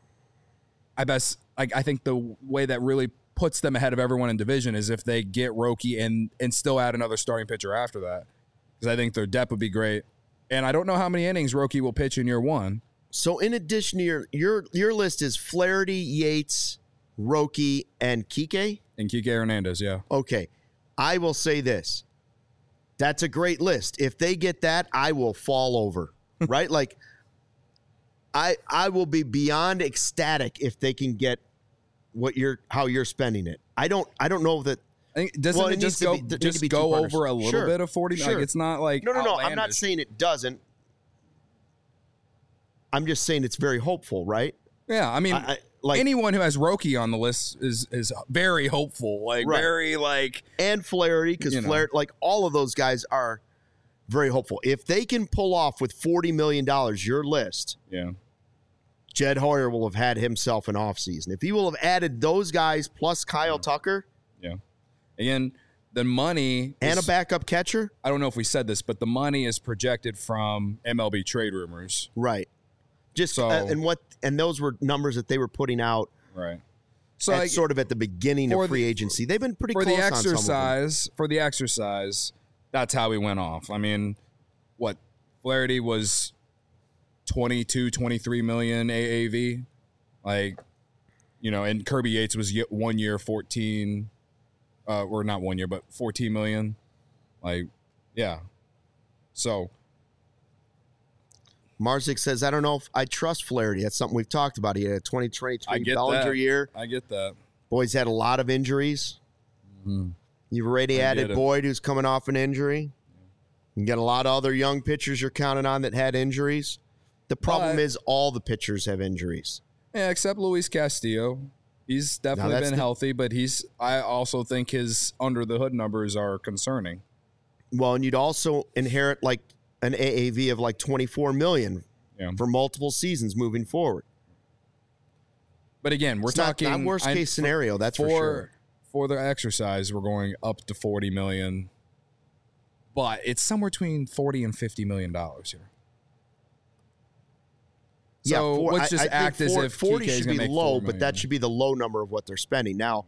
I best like I think the way that really puts them ahead of everyone in division is if they get Roki and and still add another starting pitcher after that. Because I think their depth would be great. And I don't know how many innings Roki will pitch in year one. So in addition to your your your list is Flaherty, Yates, Roki, and Kike. And Kike Hernandez, yeah. Okay, I will say this. That's a great list. If they get that, I will fall over. Right? Like I I will be beyond ecstatic if they can get what you're how you're spending it. I don't I don't know that I think doesn't Well, it it just needs to go be- there need just to be two go partners. over a little Sure. bit of forty? Sure. Like it's not like No, no, no. I'm not outlandish. saying it doesn't. I'm just saying it's very hopeful, right? Yeah, I mean, I, I, like anyone who has Roki on the list is is very hopeful. Like Right. very like and Flaherty, because You know. Flaherty, like all of those guys are very hopeful. If they can pull off with forty million dollars your list, yeah. Jed Hoyer will have had himself an offseason. If he will have added those guys plus Kyle Tucker Again, the money and a is- backup catcher, I don't know if we said this, but the money is projected from M L B trade rumors. right? Just So- uh, and what and those were numbers that they were putting out Right. So at like, sort of at the beginning for of free the- agency. They've been pretty for close the on some of them. exercise, for the exercise, that's how we went off. I mean, what Flaherty was twenty-two, twenty-three million A A V. Like, you know, and Kirby Yates was ye- one year fourteen uh or not one year, but fourteen million. Like, yeah. So Marzik says, I don't know if I trust Flaherty. That's something we've talked about. He had a twenty twenty-three Bellinger that. year. I get that. Boyd's had a lot of injuries. Mm-hmm. You've already I added Boyd, who's coming off an injury. You got a lot of other young pitchers you're counting on that had injuries. The problem but, is all the pitchers have injuries. Yeah, except Luis Castillo. He's definitely been the, healthy, but he's. I also think his under the hood numbers are concerning. Well, and you'd also inherit like an A A V of like twenty-four million yeah. for multiple seasons moving forward. But again, we're it's talking not, not worst case I, scenario. That's for, for sure. For the exercise, we're going up to forty million, but it's somewhere between forty and fifty million dollars here. So yeah, for, let's just I, I act as for, if forty Kike's should be make low, but that should be the low number of what they're spending. Now,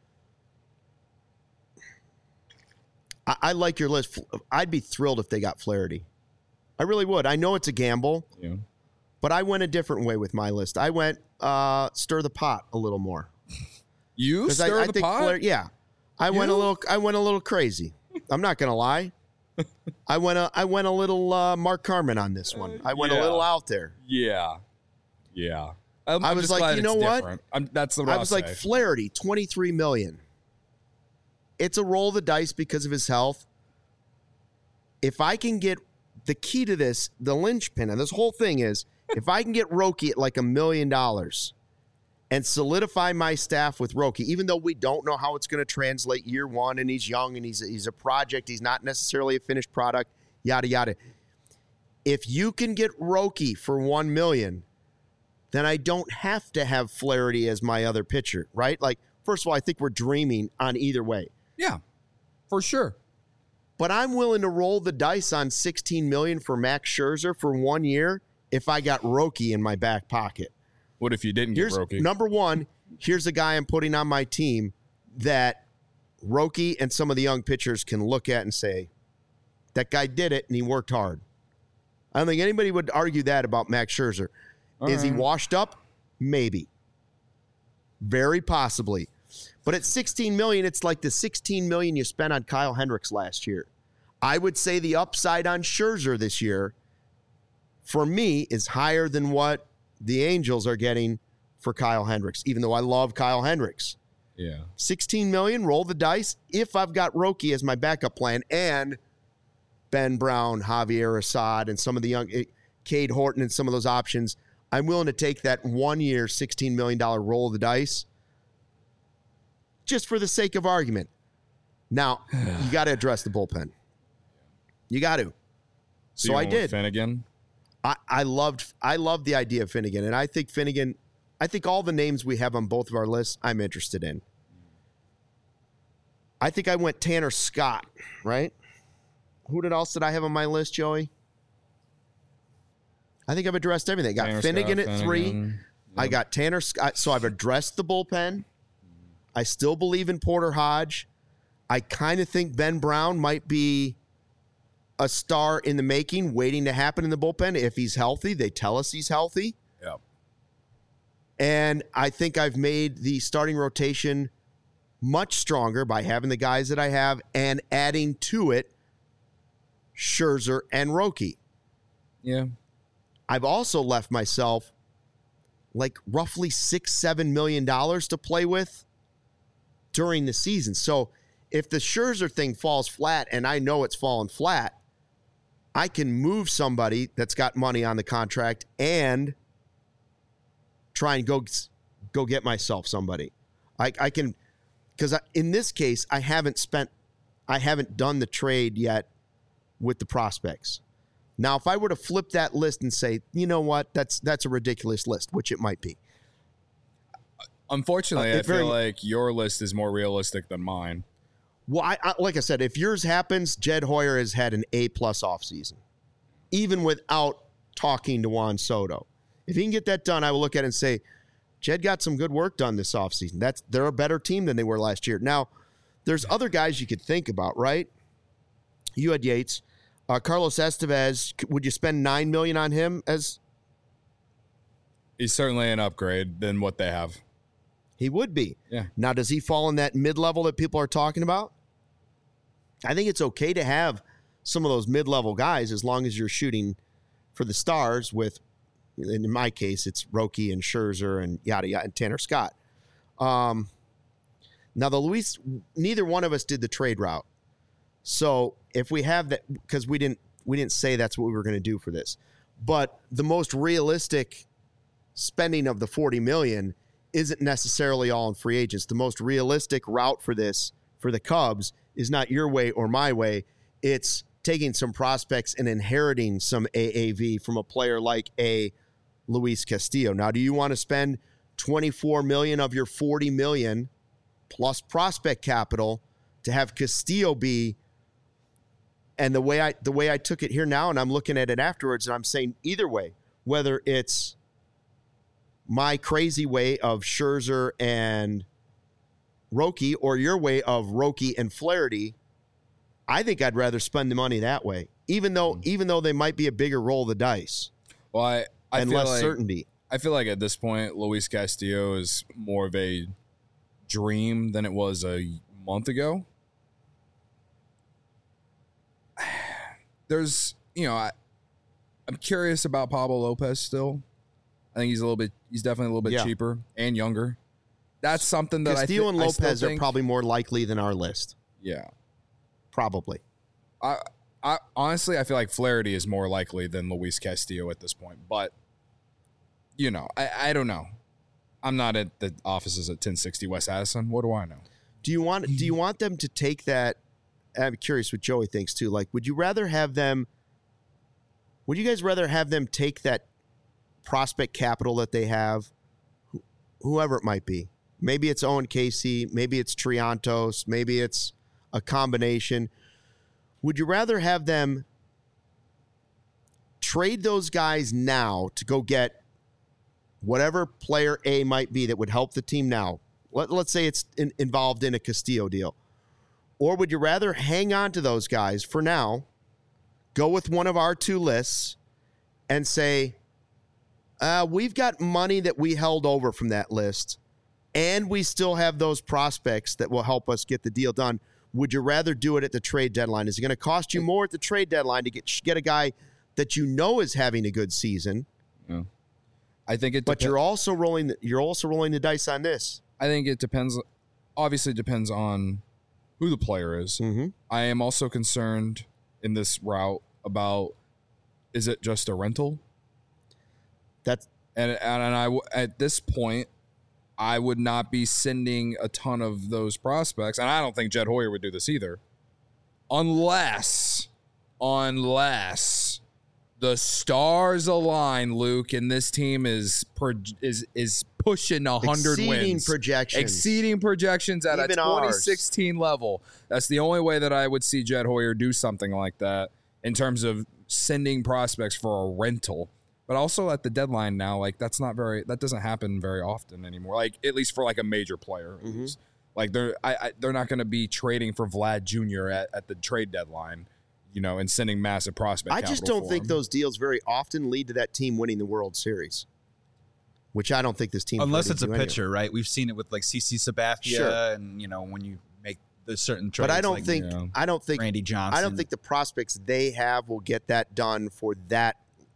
I, I like your list. I'd be thrilled if they got Flaherty. I really would. I know it's a gamble, yeah. but I went a different way with my list. I went uh, stir the pot a little more. You stir I, I the think pot? Flaherty, yeah, I you? went a little. I went a little crazy. I'm not gonna lie. I went a I went a little uh, Mark Carmen on this one. I went yeah. a little out there. Yeah, yeah. I'm, I I'm was just like, glad you know it's what? different. I'm, that's the. I was like, Flaherty, twenty-three million. It's a roll of the dice because of his health. If I can get the key to this, the linchpin of this whole thing is if I can get Roki at like a million dollars and solidify my staff with Roki, even though we don't know how it's going to translate year one and he's young and he's he's a project, he's not necessarily a finished product, yada yada. If you can get Roki for one million, then I don't have to have Flaherty as my other pitcher, right? Like, first of all, I think we're dreaming on either way. Yeah, for sure. But I'm willing to roll the dice on sixteen million dollars for Max Scherzer for one year if I got Roki in my back pocket. What if you didn't Here's, get Roki? Number one, here's a guy I'm putting on my team that Roki and some of the young pitchers can look at and say, that guy did it and he worked hard. I don't think anybody would argue that about Max Scherzer. All Is right. he washed up? Maybe. Very possibly. But at sixteen million dollars, it's like the sixteen million dollars you spent on Kyle Hendricks last year. I would say the upside on Scherzer this year, for me, is higher than what the Angels are getting for Kyle Hendricks, even though I love Kyle Hendricks. Yeah. sixteen million dollars, roll the dice. If I've got Roki as my backup plan and Ben Brown, Javier Assad, and some of the young, Cade Horton and some of those options, I'm willing to take that one-year, sixteen million dollars roll of the dice just for the sake of argument. Now, you got to address the bullpen. You got to. So, so I did. Finnegan? I, I loved I loved the idea of Finnegan, and I think Finnegan, I think all the names we have on both of our lists, I'm interested in. I think I went Tanner Scott, right? Who did else did I have on my list, Joey? I think I've addressed everything. I got Tanner Finnegan Scott, at Finnegan. three. Yep. I got Tanner Scott. So I've addressed the bullpen. I still believe in Porter Hodge. I kind of think Ben Brown might be a star in the making, waiting to happen in the bullpen if he's healthy. They tell us he's healthy. Yep. And I think I've made the starting rotation much stronger by having the guys that I have and adding to it Scherzer and Roki. Yeah. I've also left myself like roughly six, seven million dollars to play with during the season. So if the Scherzer thing falls flat, and I know it's fallen flat, I can move somebody that's got money on the contract and try and go go get myself somebody. I, I can, because in this case, I haven't spent, I haven't done the trade yet with the prospects. Now, if I were to flip that list and say, you know what, that's that's a ridiculous list, which it might be. Unfortunately, uh, I feel very, like your list is more realistic than mine. Well, I, I, like I said, if yours happens, Jed Hoyer has had an A-plus offseason, even without talking to Juan Soto. If he can get that done, I will look at it and say, Jed got some good work done this offseason. That's, they're a better team than they were last year. Now, there's other guys you could think about, right? You had Yates. Uh, Carlos Estevez, would you spend nine million dollars on him as? He's certainly an upgrade than what they have. He would be. Yeah. Now, does he fall in that mid-level that people are talking about? I think it's okay to have some of those mid-level guys as long as you're shooting for the stars with, in my case, it's Roki and Scherzer and yada yada and Tanner Scott. Um, now the Luis, neither one of us did the trade route. So if we have that, because we didn't we didn't say that's what we were going to do for this, but the most realistic spending of the forty million dollars isn't necessarily all in free agents. The most realistic route for this for the Cubs is not your way or my way. It's taking some prospects and inheriting some A A V from a player like a Luis Castillo. Now, do you want to spend twenty-four million dollars of your forty million dollars plus prospect capital to have Castillo be? And the way I the way I took it here now, and I'm looking at it afterwards, and I'm saying either way, whether it's my crazy way of Scherzer and Roki or your way of Roki and Flaherty, I think I'd rather spend the money that way, even though mm. even though they might be a bigger roll of the dice. Well, I, I and feel less like, certainty. I feel like at this point, Luis Castillo is more of a dream than it was a month ago. There's, you know, I, I'm curious about Pablo Lopez still. I think he's a little bit, he's definitely a little bit yeah. cheaper and younger. That's something that Castillo I and th- Lopez I are think, probably more likely than our list. Yeah. Probably. I, I honestly, I feel like Flaherty is more likely than Luis Castillo at this point. But, you know, I, I don't know. I'm not at the offices at ten sixty West Addison. What do I know? Do you want do you want them to take that? I'm curious what Joey thinks too. Like, would you rather have them? Would you guys rather have them take that prospect capital that they have, wh- whoever it might be? Maybe it's Owen Casey. Maybe it's Triantos. Maybe it's a combination. Would you rather have them trade those guys now to go get whatever player A might be that would help the team now? Let, let's say it's in, involved in a Castillo deal. Or would you rather hang on to those guys for now, go with one of our two lists, and say, uh, we've got money that we held over from that list, and we still have those prospects that will help us get the deal done. Would you rather do it at the trade deadline? Is it going to cost you more at the trade deadline to get get a guy that you know is having a good season? Yeah. I think it. But Depe- you're also rolling. The, you're also rolling the dice on this. I think it depends. Obviously, depends on who the player is. Mm-hmm. I am also concerned in this route about, is it just a rental? That's and and, and I at this point, I would not be sending a ton of those prospects, and I don't think Jed Hoyer would do this either, unless, unless the stars align, Luke, and this team is pro, is is pushing a hundred wins, projections, exceeding projections at Even a twenty ours. sixteen level. That's the only way that I would see Jed Hoyer do something like that in terms of sending prospects for a rental. But also at the deadline now, like that's not very, that doesn't happen very often anymore. Like at least for like a major player, Mm-hmm. like they're I, I, they're not going to be trading for Vlad Junior at, at the trade deadline, you know, and sending massive prospect. I just capital don't for think him. those deals very often lead to that team winning the World Series, which I don't think this team. Unless it's a anyway. pitcher, right? We've seen it with like C C Sabathia, Sure. and you know when you make the certain trades. But I don't like, think you know, I don't think Randy Johnson. I don't think the prospects they have will get that done for that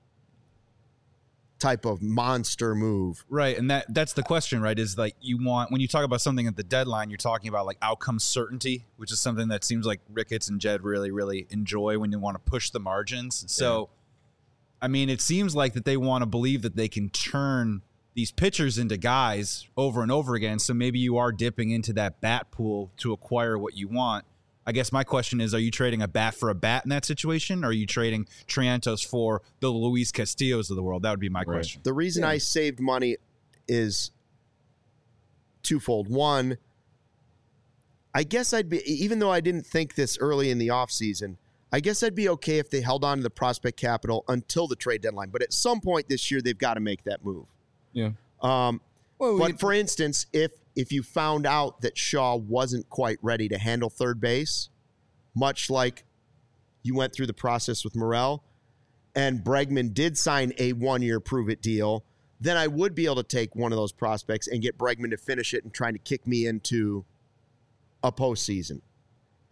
type of monster move. Right, and that that's the question, right? Is like you want when you talk about something at the deadline, you're talking about like outcome certainty, which is something that seems like Ricketts and Jed really, really enjoy when you want to push the margins. So, I mean, it seems like that they want to believe that they can turn these pitchers into guys over and over again. So maybe you are dipping into that bat pool to acquire what you want. I guess my question is, are you trading a bat for a bat in that situation? Or are you trading Triantos for the Luis Castillos of the world? That would be my Right. question. The reason Yeah. I saved money is twofold. One, I guess I'd be, even though I didn't think this early in the offseason, I guess I'd be okay if they held on to the prospect capital until the trade deadline. But at some point this year, they've got to make that move. Yeah. Um, Well, but we- for instance, if if you found out that Shaw wasn't quite ready to handle third base, much like you went through the process with Morel, and Bregman did sign a one-year prove-it deal, then I would be able to take one of those prospects and get Bregman to finish it and trying to kick me into a postseason.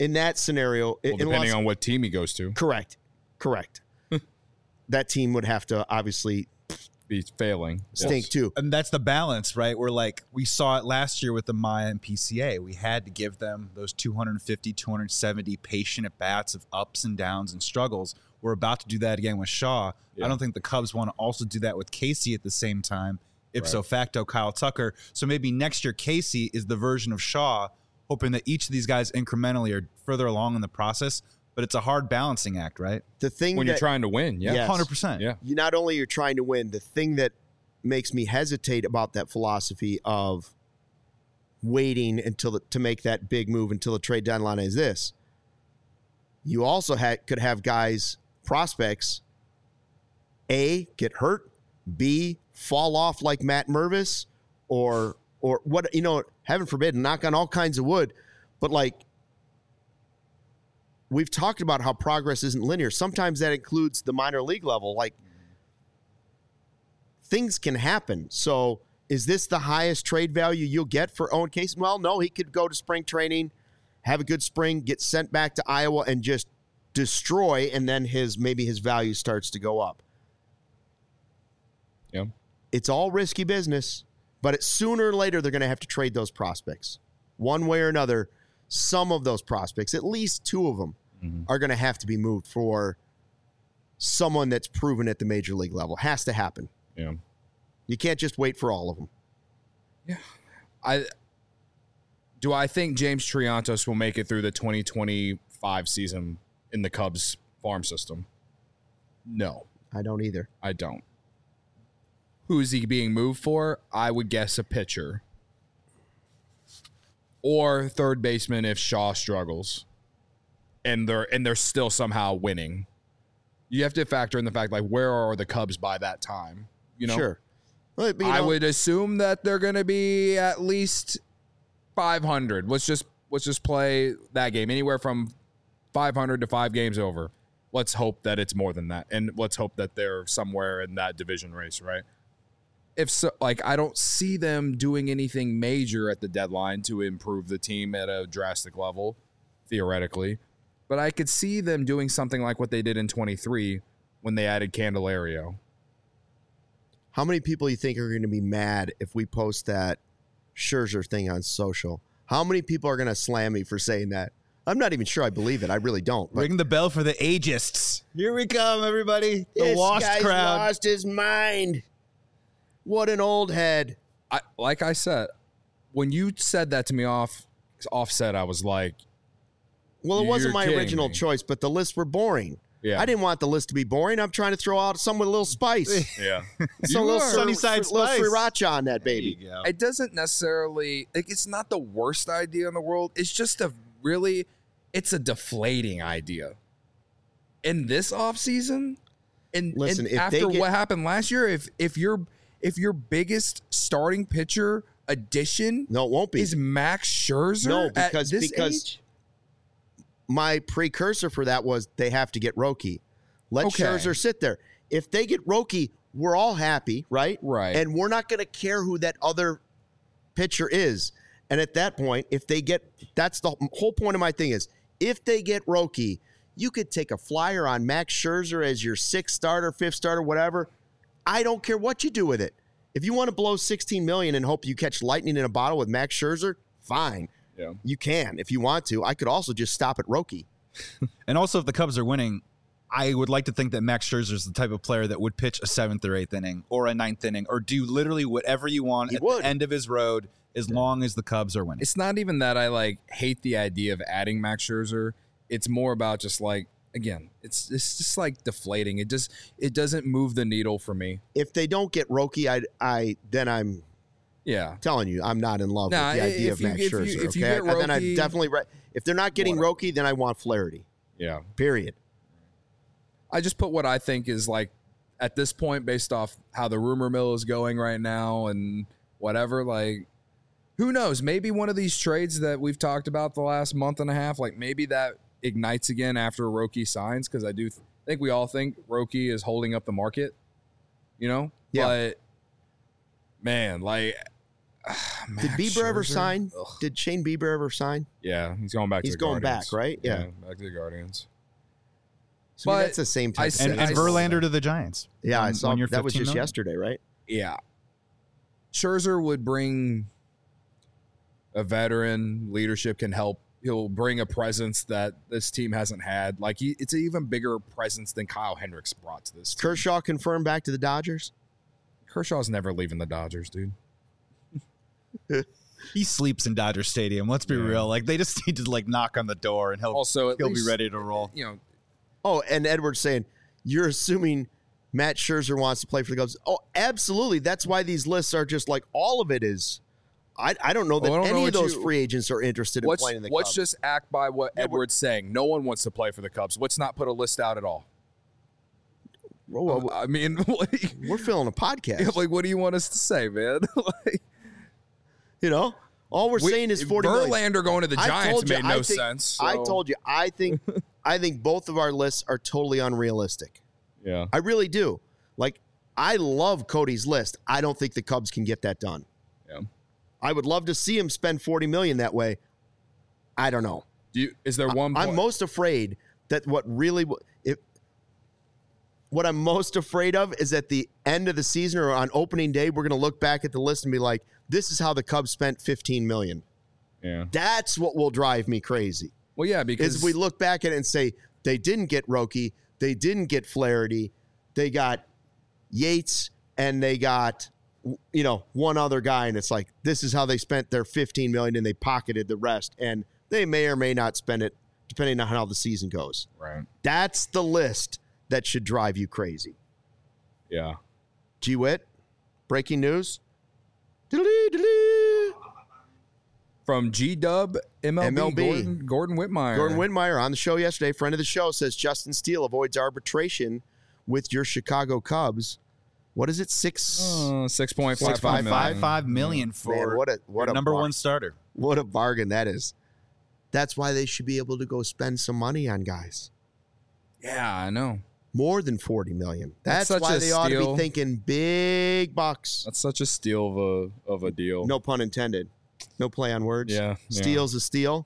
in that scenario, Well, depending on what team he goes to, correct, correct, that team would have to obviously be failing. stink Yes. too. And that's the balance, right? We're like, we saw it last year with the Maya and P C A. We had to give them those two fifty, two seventy patient at bats of ups and downs and struggles. We're about to do that again with Shaw. Yeah. I don't think the Cubs want to also do that with Casey at the same time. Ipso Right. facto, Kyle Tucker. So maybe next year, Casey is the version of Shaw, hoping that each of these guys incrementally are further along in the process. But it's a hard balancing act, right? The thing When that, you're trying to win, yeah, Yes. one hundred percent. yeah, you not only you're trying to win, the thing that makes me hesitate about that philosophy of waiting until the, to make that big move until the trade deadline is this. You also had could have guys, prospects, A, get hurt, B, fall off like Matt Mervis, or or what, you know, heaven forbid, knock on all kinds of wood, but like we've talked about how progress isn't linear. Sometimes that includes the minor league level. Like, things can happen. So is this the highest trade value you'll get for Owen Casey? Well, no, he could go to spring training, have a good spring, get sent back to Iowa and just destroy, and then his maybe his value starts to go up. yeah. It's all risky business, but it, sooner or later they're going to have to trade those prospects. One way or another, some of those prospects, at least two of them, Mhm. are going to have to be moved for someone that's proven at the major league level. Has to happen. Yeah. You can't just wait for all of them. I do I think James Triantos will make it through the twenty twenty-five season in the Cubs farm system? No, I don't either. I don't. Who is he being moved for? I would guess a pitcher. Or third baseman if Shaw struggles. And they're and they're still somehow winning. You have to factor in the fact, like, where are the Cubs by that time? You know? Sure. Well, but, you I know, would assume that they're going to be at least five hundred. Let's just let's just play that game anywhere from five hundred to five games over. Let's hope that it's more than that, and let's hope that they're somewhere in that division race, right? If so, like, I don't see them doing anything major at the deadline to improve the team at a drastic level, theoretically, but I could see them doing something like what they did in twenty-three when they added Candelario. how many people you think are going to be mad if we post that Scherzer thing on social? How many people are going to slam me for saying that? I'm not even sure I believe it. I really don't. But Ring the bell for the ageists. Here we come, everybody. The this washed guy's crowd. lost his mind. What an old head. I like I said, when you said that to me off offset, I was like, Well, it wasn't You're my kidding original me. choice, but the lists were boring. yeah, I didn't want the list to be boring. I'm trying to throw out some with a little spice. yeah. Some You little are. sur- Sunnyside little spice. sriracha on that baby. There you go. It doesn't necessarily like it's not the worst idea in the world. It's just a really it's a deflating idea. In this offseason, and, Listen, and if they after get- what happened last year, if if your if your biggest starting pitcher addition No, it won't be. is Max Scherzer, No, at because- this because- age? My precursor for that was they have to get Roki. Let Okay. Scherzer sit there. If they get Roki, we're all happy, right? Right. And we're not going to care who that other pitcher is. And at that point, if they get, that's the whole point of my thing is, if they get Roki, you could take a flyer on Max Scherzer as your sixth starter, fifth starter, whatever. I don't care what you do with it. If you want to blow sixteen million dollars and hope you catch lightning in a bottle with Max Scherzer, fine. Yeah. You can if you want to. I could also just stop at Roki. And also, if the Cubs are winning, I would like to think that Max Scherzer is the type of player that would pitch a seventh or eighth inning or a ninth inning or do literally whatever you want He at would. the end of his road as long as the Cubs are winning. It's not even that I like hate the idea of adding Max Scherzer. It's more about just like again, it's it's just like deflating. It just it doesn't move the needle for me. If they don't get Roki, I, I then I'm Yeah. telling you, I'm not in love Nah, with the idea if of you- Max if you- Scherzer. if you okay, get and then I Roki- definitely re- if they're not getting Whatever. Roki, then I want Flaherty. Yeah. Period. I just put what I think is like at this point based off how the rumor mill is going right now and whatever, like who knows? Maybe one of these trades that we've talked about the last month and a half, like maybe that ignites again after Roki signs, because I do th- think we all think Roki is holding up the market, you know? Yeah. But man, like Did Bieber Scherzer? ever sign? Ugh. Did Shane Bieber ever sign? Yeah, he's going back He's to the going Guardians. back, right? Yeah. back to the Guardians. So I mean, But that's the same type I of see- And, thing. and I- Verlander to the Giants. Yeah, I One- saw one year, that was fifteen just million. yesterday, right? Yeah. Scherzer would bring a veteran. Leadership can help. He'll bring a presence that this team hasn't had. Like, he, it's an even bigger presence than Kyle Hendricks brought to this team. Kershaw confirmed back to the Dodgers. Kershaw's never leaving the Dodgers, dude. He sleeps in Dodger Stadium. Let's be Yeah. real. Like they just need to like knock on the door and he'll Also, at he'll least, be ready to roll. You know, Oh, and Edward's saying, you're assuming Matt Scherzer wants to play for the Cubs. Oh, absolutely. That's why these lists are just like all of it is. I, I don't know that Well, I don't any know of what those you- free agents are interested in let's, playing in the let's Cubs. just act by what Yeah, we're- Edward's saying. No one wants to play for the Cubs. Let's not put a list out at all. Whoa, whoa, whoa. I mean, like, We're filling a podcast. like, what do you want us to say, man? like, You know, all we're we- saying is forty million. Verlander going to the I Giants told you, made I no think- sense. I so- told you, I think, I think both of our lists are totally unrealistic. Yeah. I really do. Like, I love Cody's list. I don't think the Cubs can get that done. Yeah. I would love to see him spend forty million dollars that way. I don't know. Do you, is there one? I'm point- most afraid that what really if what I'm most afraid of is at the end of the season or on opening day, we're going to look back at the list and be like, "This is how the Cubs spent fifteen million dollars." Yeah. That's what will drive me crazy. Well, yeah, because Is we look back at it and say they didn't get Roki, they didn't get Flaherty, they got Yates, and they got you know one other guy, and it's like this is how they spent their fifteen million dollars and they pocketed the rest, and they may or may not spend it depending on how the season goes. right. That's the list that should drive you crazy. Yeah. G Wit, breaking news. Diddly, diddly. From G Dub M L B, M L B. Gordon, Gordon Whitmire. Gordon Whitmire on the show yesterday, friend of the show, says Justin Steele avoids arbitration with your Chicago Cubs. What is it? Six. Uh, six point five Six five point million. Five five million for Man, what a what your a number bar- one starter. What a bargain that is. That's why they should be able to go spend some money on guys. Yeah, I know. More than forty million. That's, That's such why a they ought to be steal. thinking big bucks. That's such a steal of a of a deal. No pun intended. No play on words. Yeah, yeah. Steal's a steal.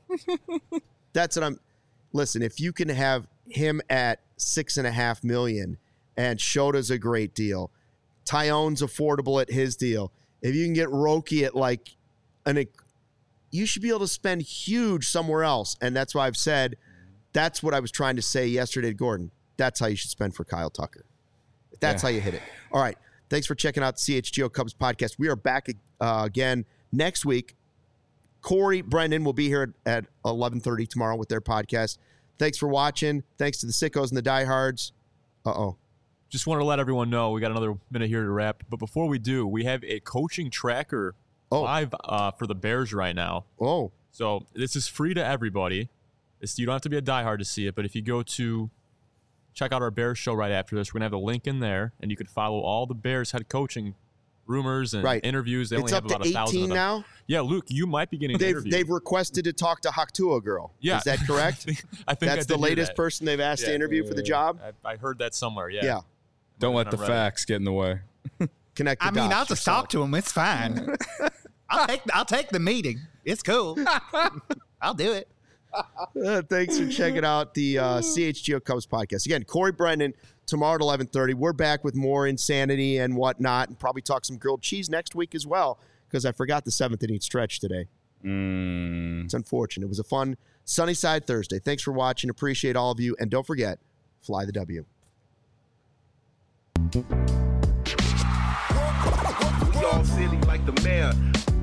That's what I'm. Listen, if you can have him at six and a half million, and Shota's a great deal, Tyone's affordable at his deal. If you can get Roki at like an, you should be able to spend huge somewhere else, and that's why I've said that's what I was trying to say yesterday to Gordon. That's how you should spend for Kyle Tucker. That's Yeah. how you hit it. All right. Thanks for checking out the C H G O Cubs podcast. We are back uh, again next week. Corey Brendan will be here at, at eleven thirty tomorrow with their podcast. Thanks for watching. Thanks to the sickos and the diehards. Uh-oh. Just wanted to let everyone know we got another minute here to wrap. But before we do, we have a coaching tracker Oh. live uh, for the Bears right now. Oh. So this is free to everybody. It's, you don't have to be a diehard to see it. But if you go to check out our Bears show right after this, we're going to have the link in there. And you can follow all the Bears head coaching rumors and Right. interviews. They It's only up have to about a thousand eighteen of them. now? Yeah, Luke, you might be getting an They've, interview. they've requested to talk to Haktua girl. Yeah. Is that correct? I think I That's did the hear latest that. person they've asked to Yeah. interview for the job? I, I heard that somewhere. Yeah. Yeah. Don't let I'm the ready. facts get in the way. Connect the I mean, dots I'll just yourself. talk to him. It's fine. I'll take I'll take the meeting. It's cool. I'll do it. Uh, thanks for checking out the uh, C H G O Cubs podcast. Again, Corey Brendan, tomorrow at eleven thirty. We're back with more insanity and whatnot, and probably talk some grilled cheese next week as well, because I forgot the seventh inning stretch today. Mm. It's unfortunate. It was a fun Sunnyside Thursday. Thanks for watching. Appreciate all of you. And don't forget, fly the W. We all silly like the mayor.